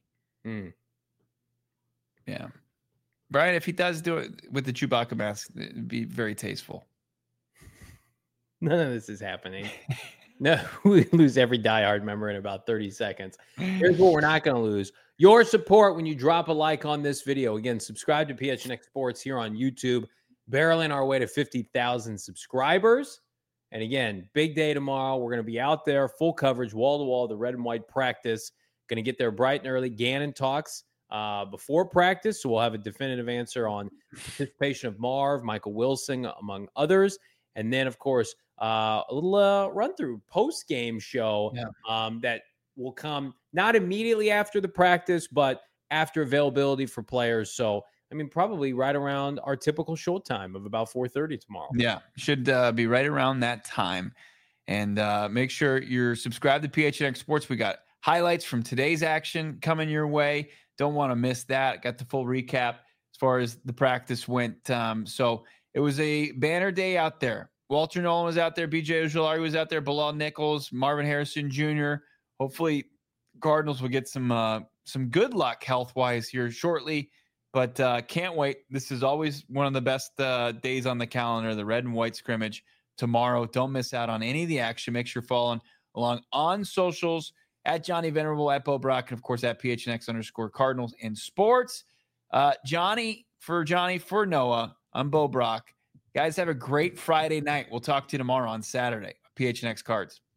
Yeah. Brian, if he does do it with the Chewbacca mask, it'd be very tasteful. None of this is happening. No, we lose every diehard member in about 30 seconds. Here's what we're not going to lose. Your support when you drop a like on this video. Again, subscribe to PHNX Sports here on YouTube. Barreling our way to 50,000 subscribers. And again, big day tomorrow. We're going to be out there, full coverage, wall-to-wall, the red and white practice. Going to get there bright and early. Gannon talks before practice, so we'll have a definitive answer on participation of Marv, Michael Wilson, among others. And then, of course, a little run-through post-game show that will come not immediately after the practice, but after availability for players. So, I mean, probably right around our typical show time of about 4:30 tomorrow. Yeah, should be right around that time. And make sure you're subscribed to PHNX Sports. We got highlights from today's action coming your way. Don't want to miss that. Got the full recap as far as the practice went. So it was a banner day out there. Walter Nolan was out there. BJ Ojulari was out there. Bilal Nichols, Marvin Harrison Jr. Hopefully Cardinals will get some good luck health-wise here shortly. But can't wait. This is always one of the best days on the calendar, the red and white scrimmage tomorrow. Don't miss out on any of the action. Make sure you're following along on socials at Johnny Venerable, at Bo Brock, and, of course, at PHNX_Cardinals in sports. Johnny for Noah, I'm Bo Brock. Guys, have a great Friday night. We'll talk to you tomorrow on Saturday. PHNX Cards.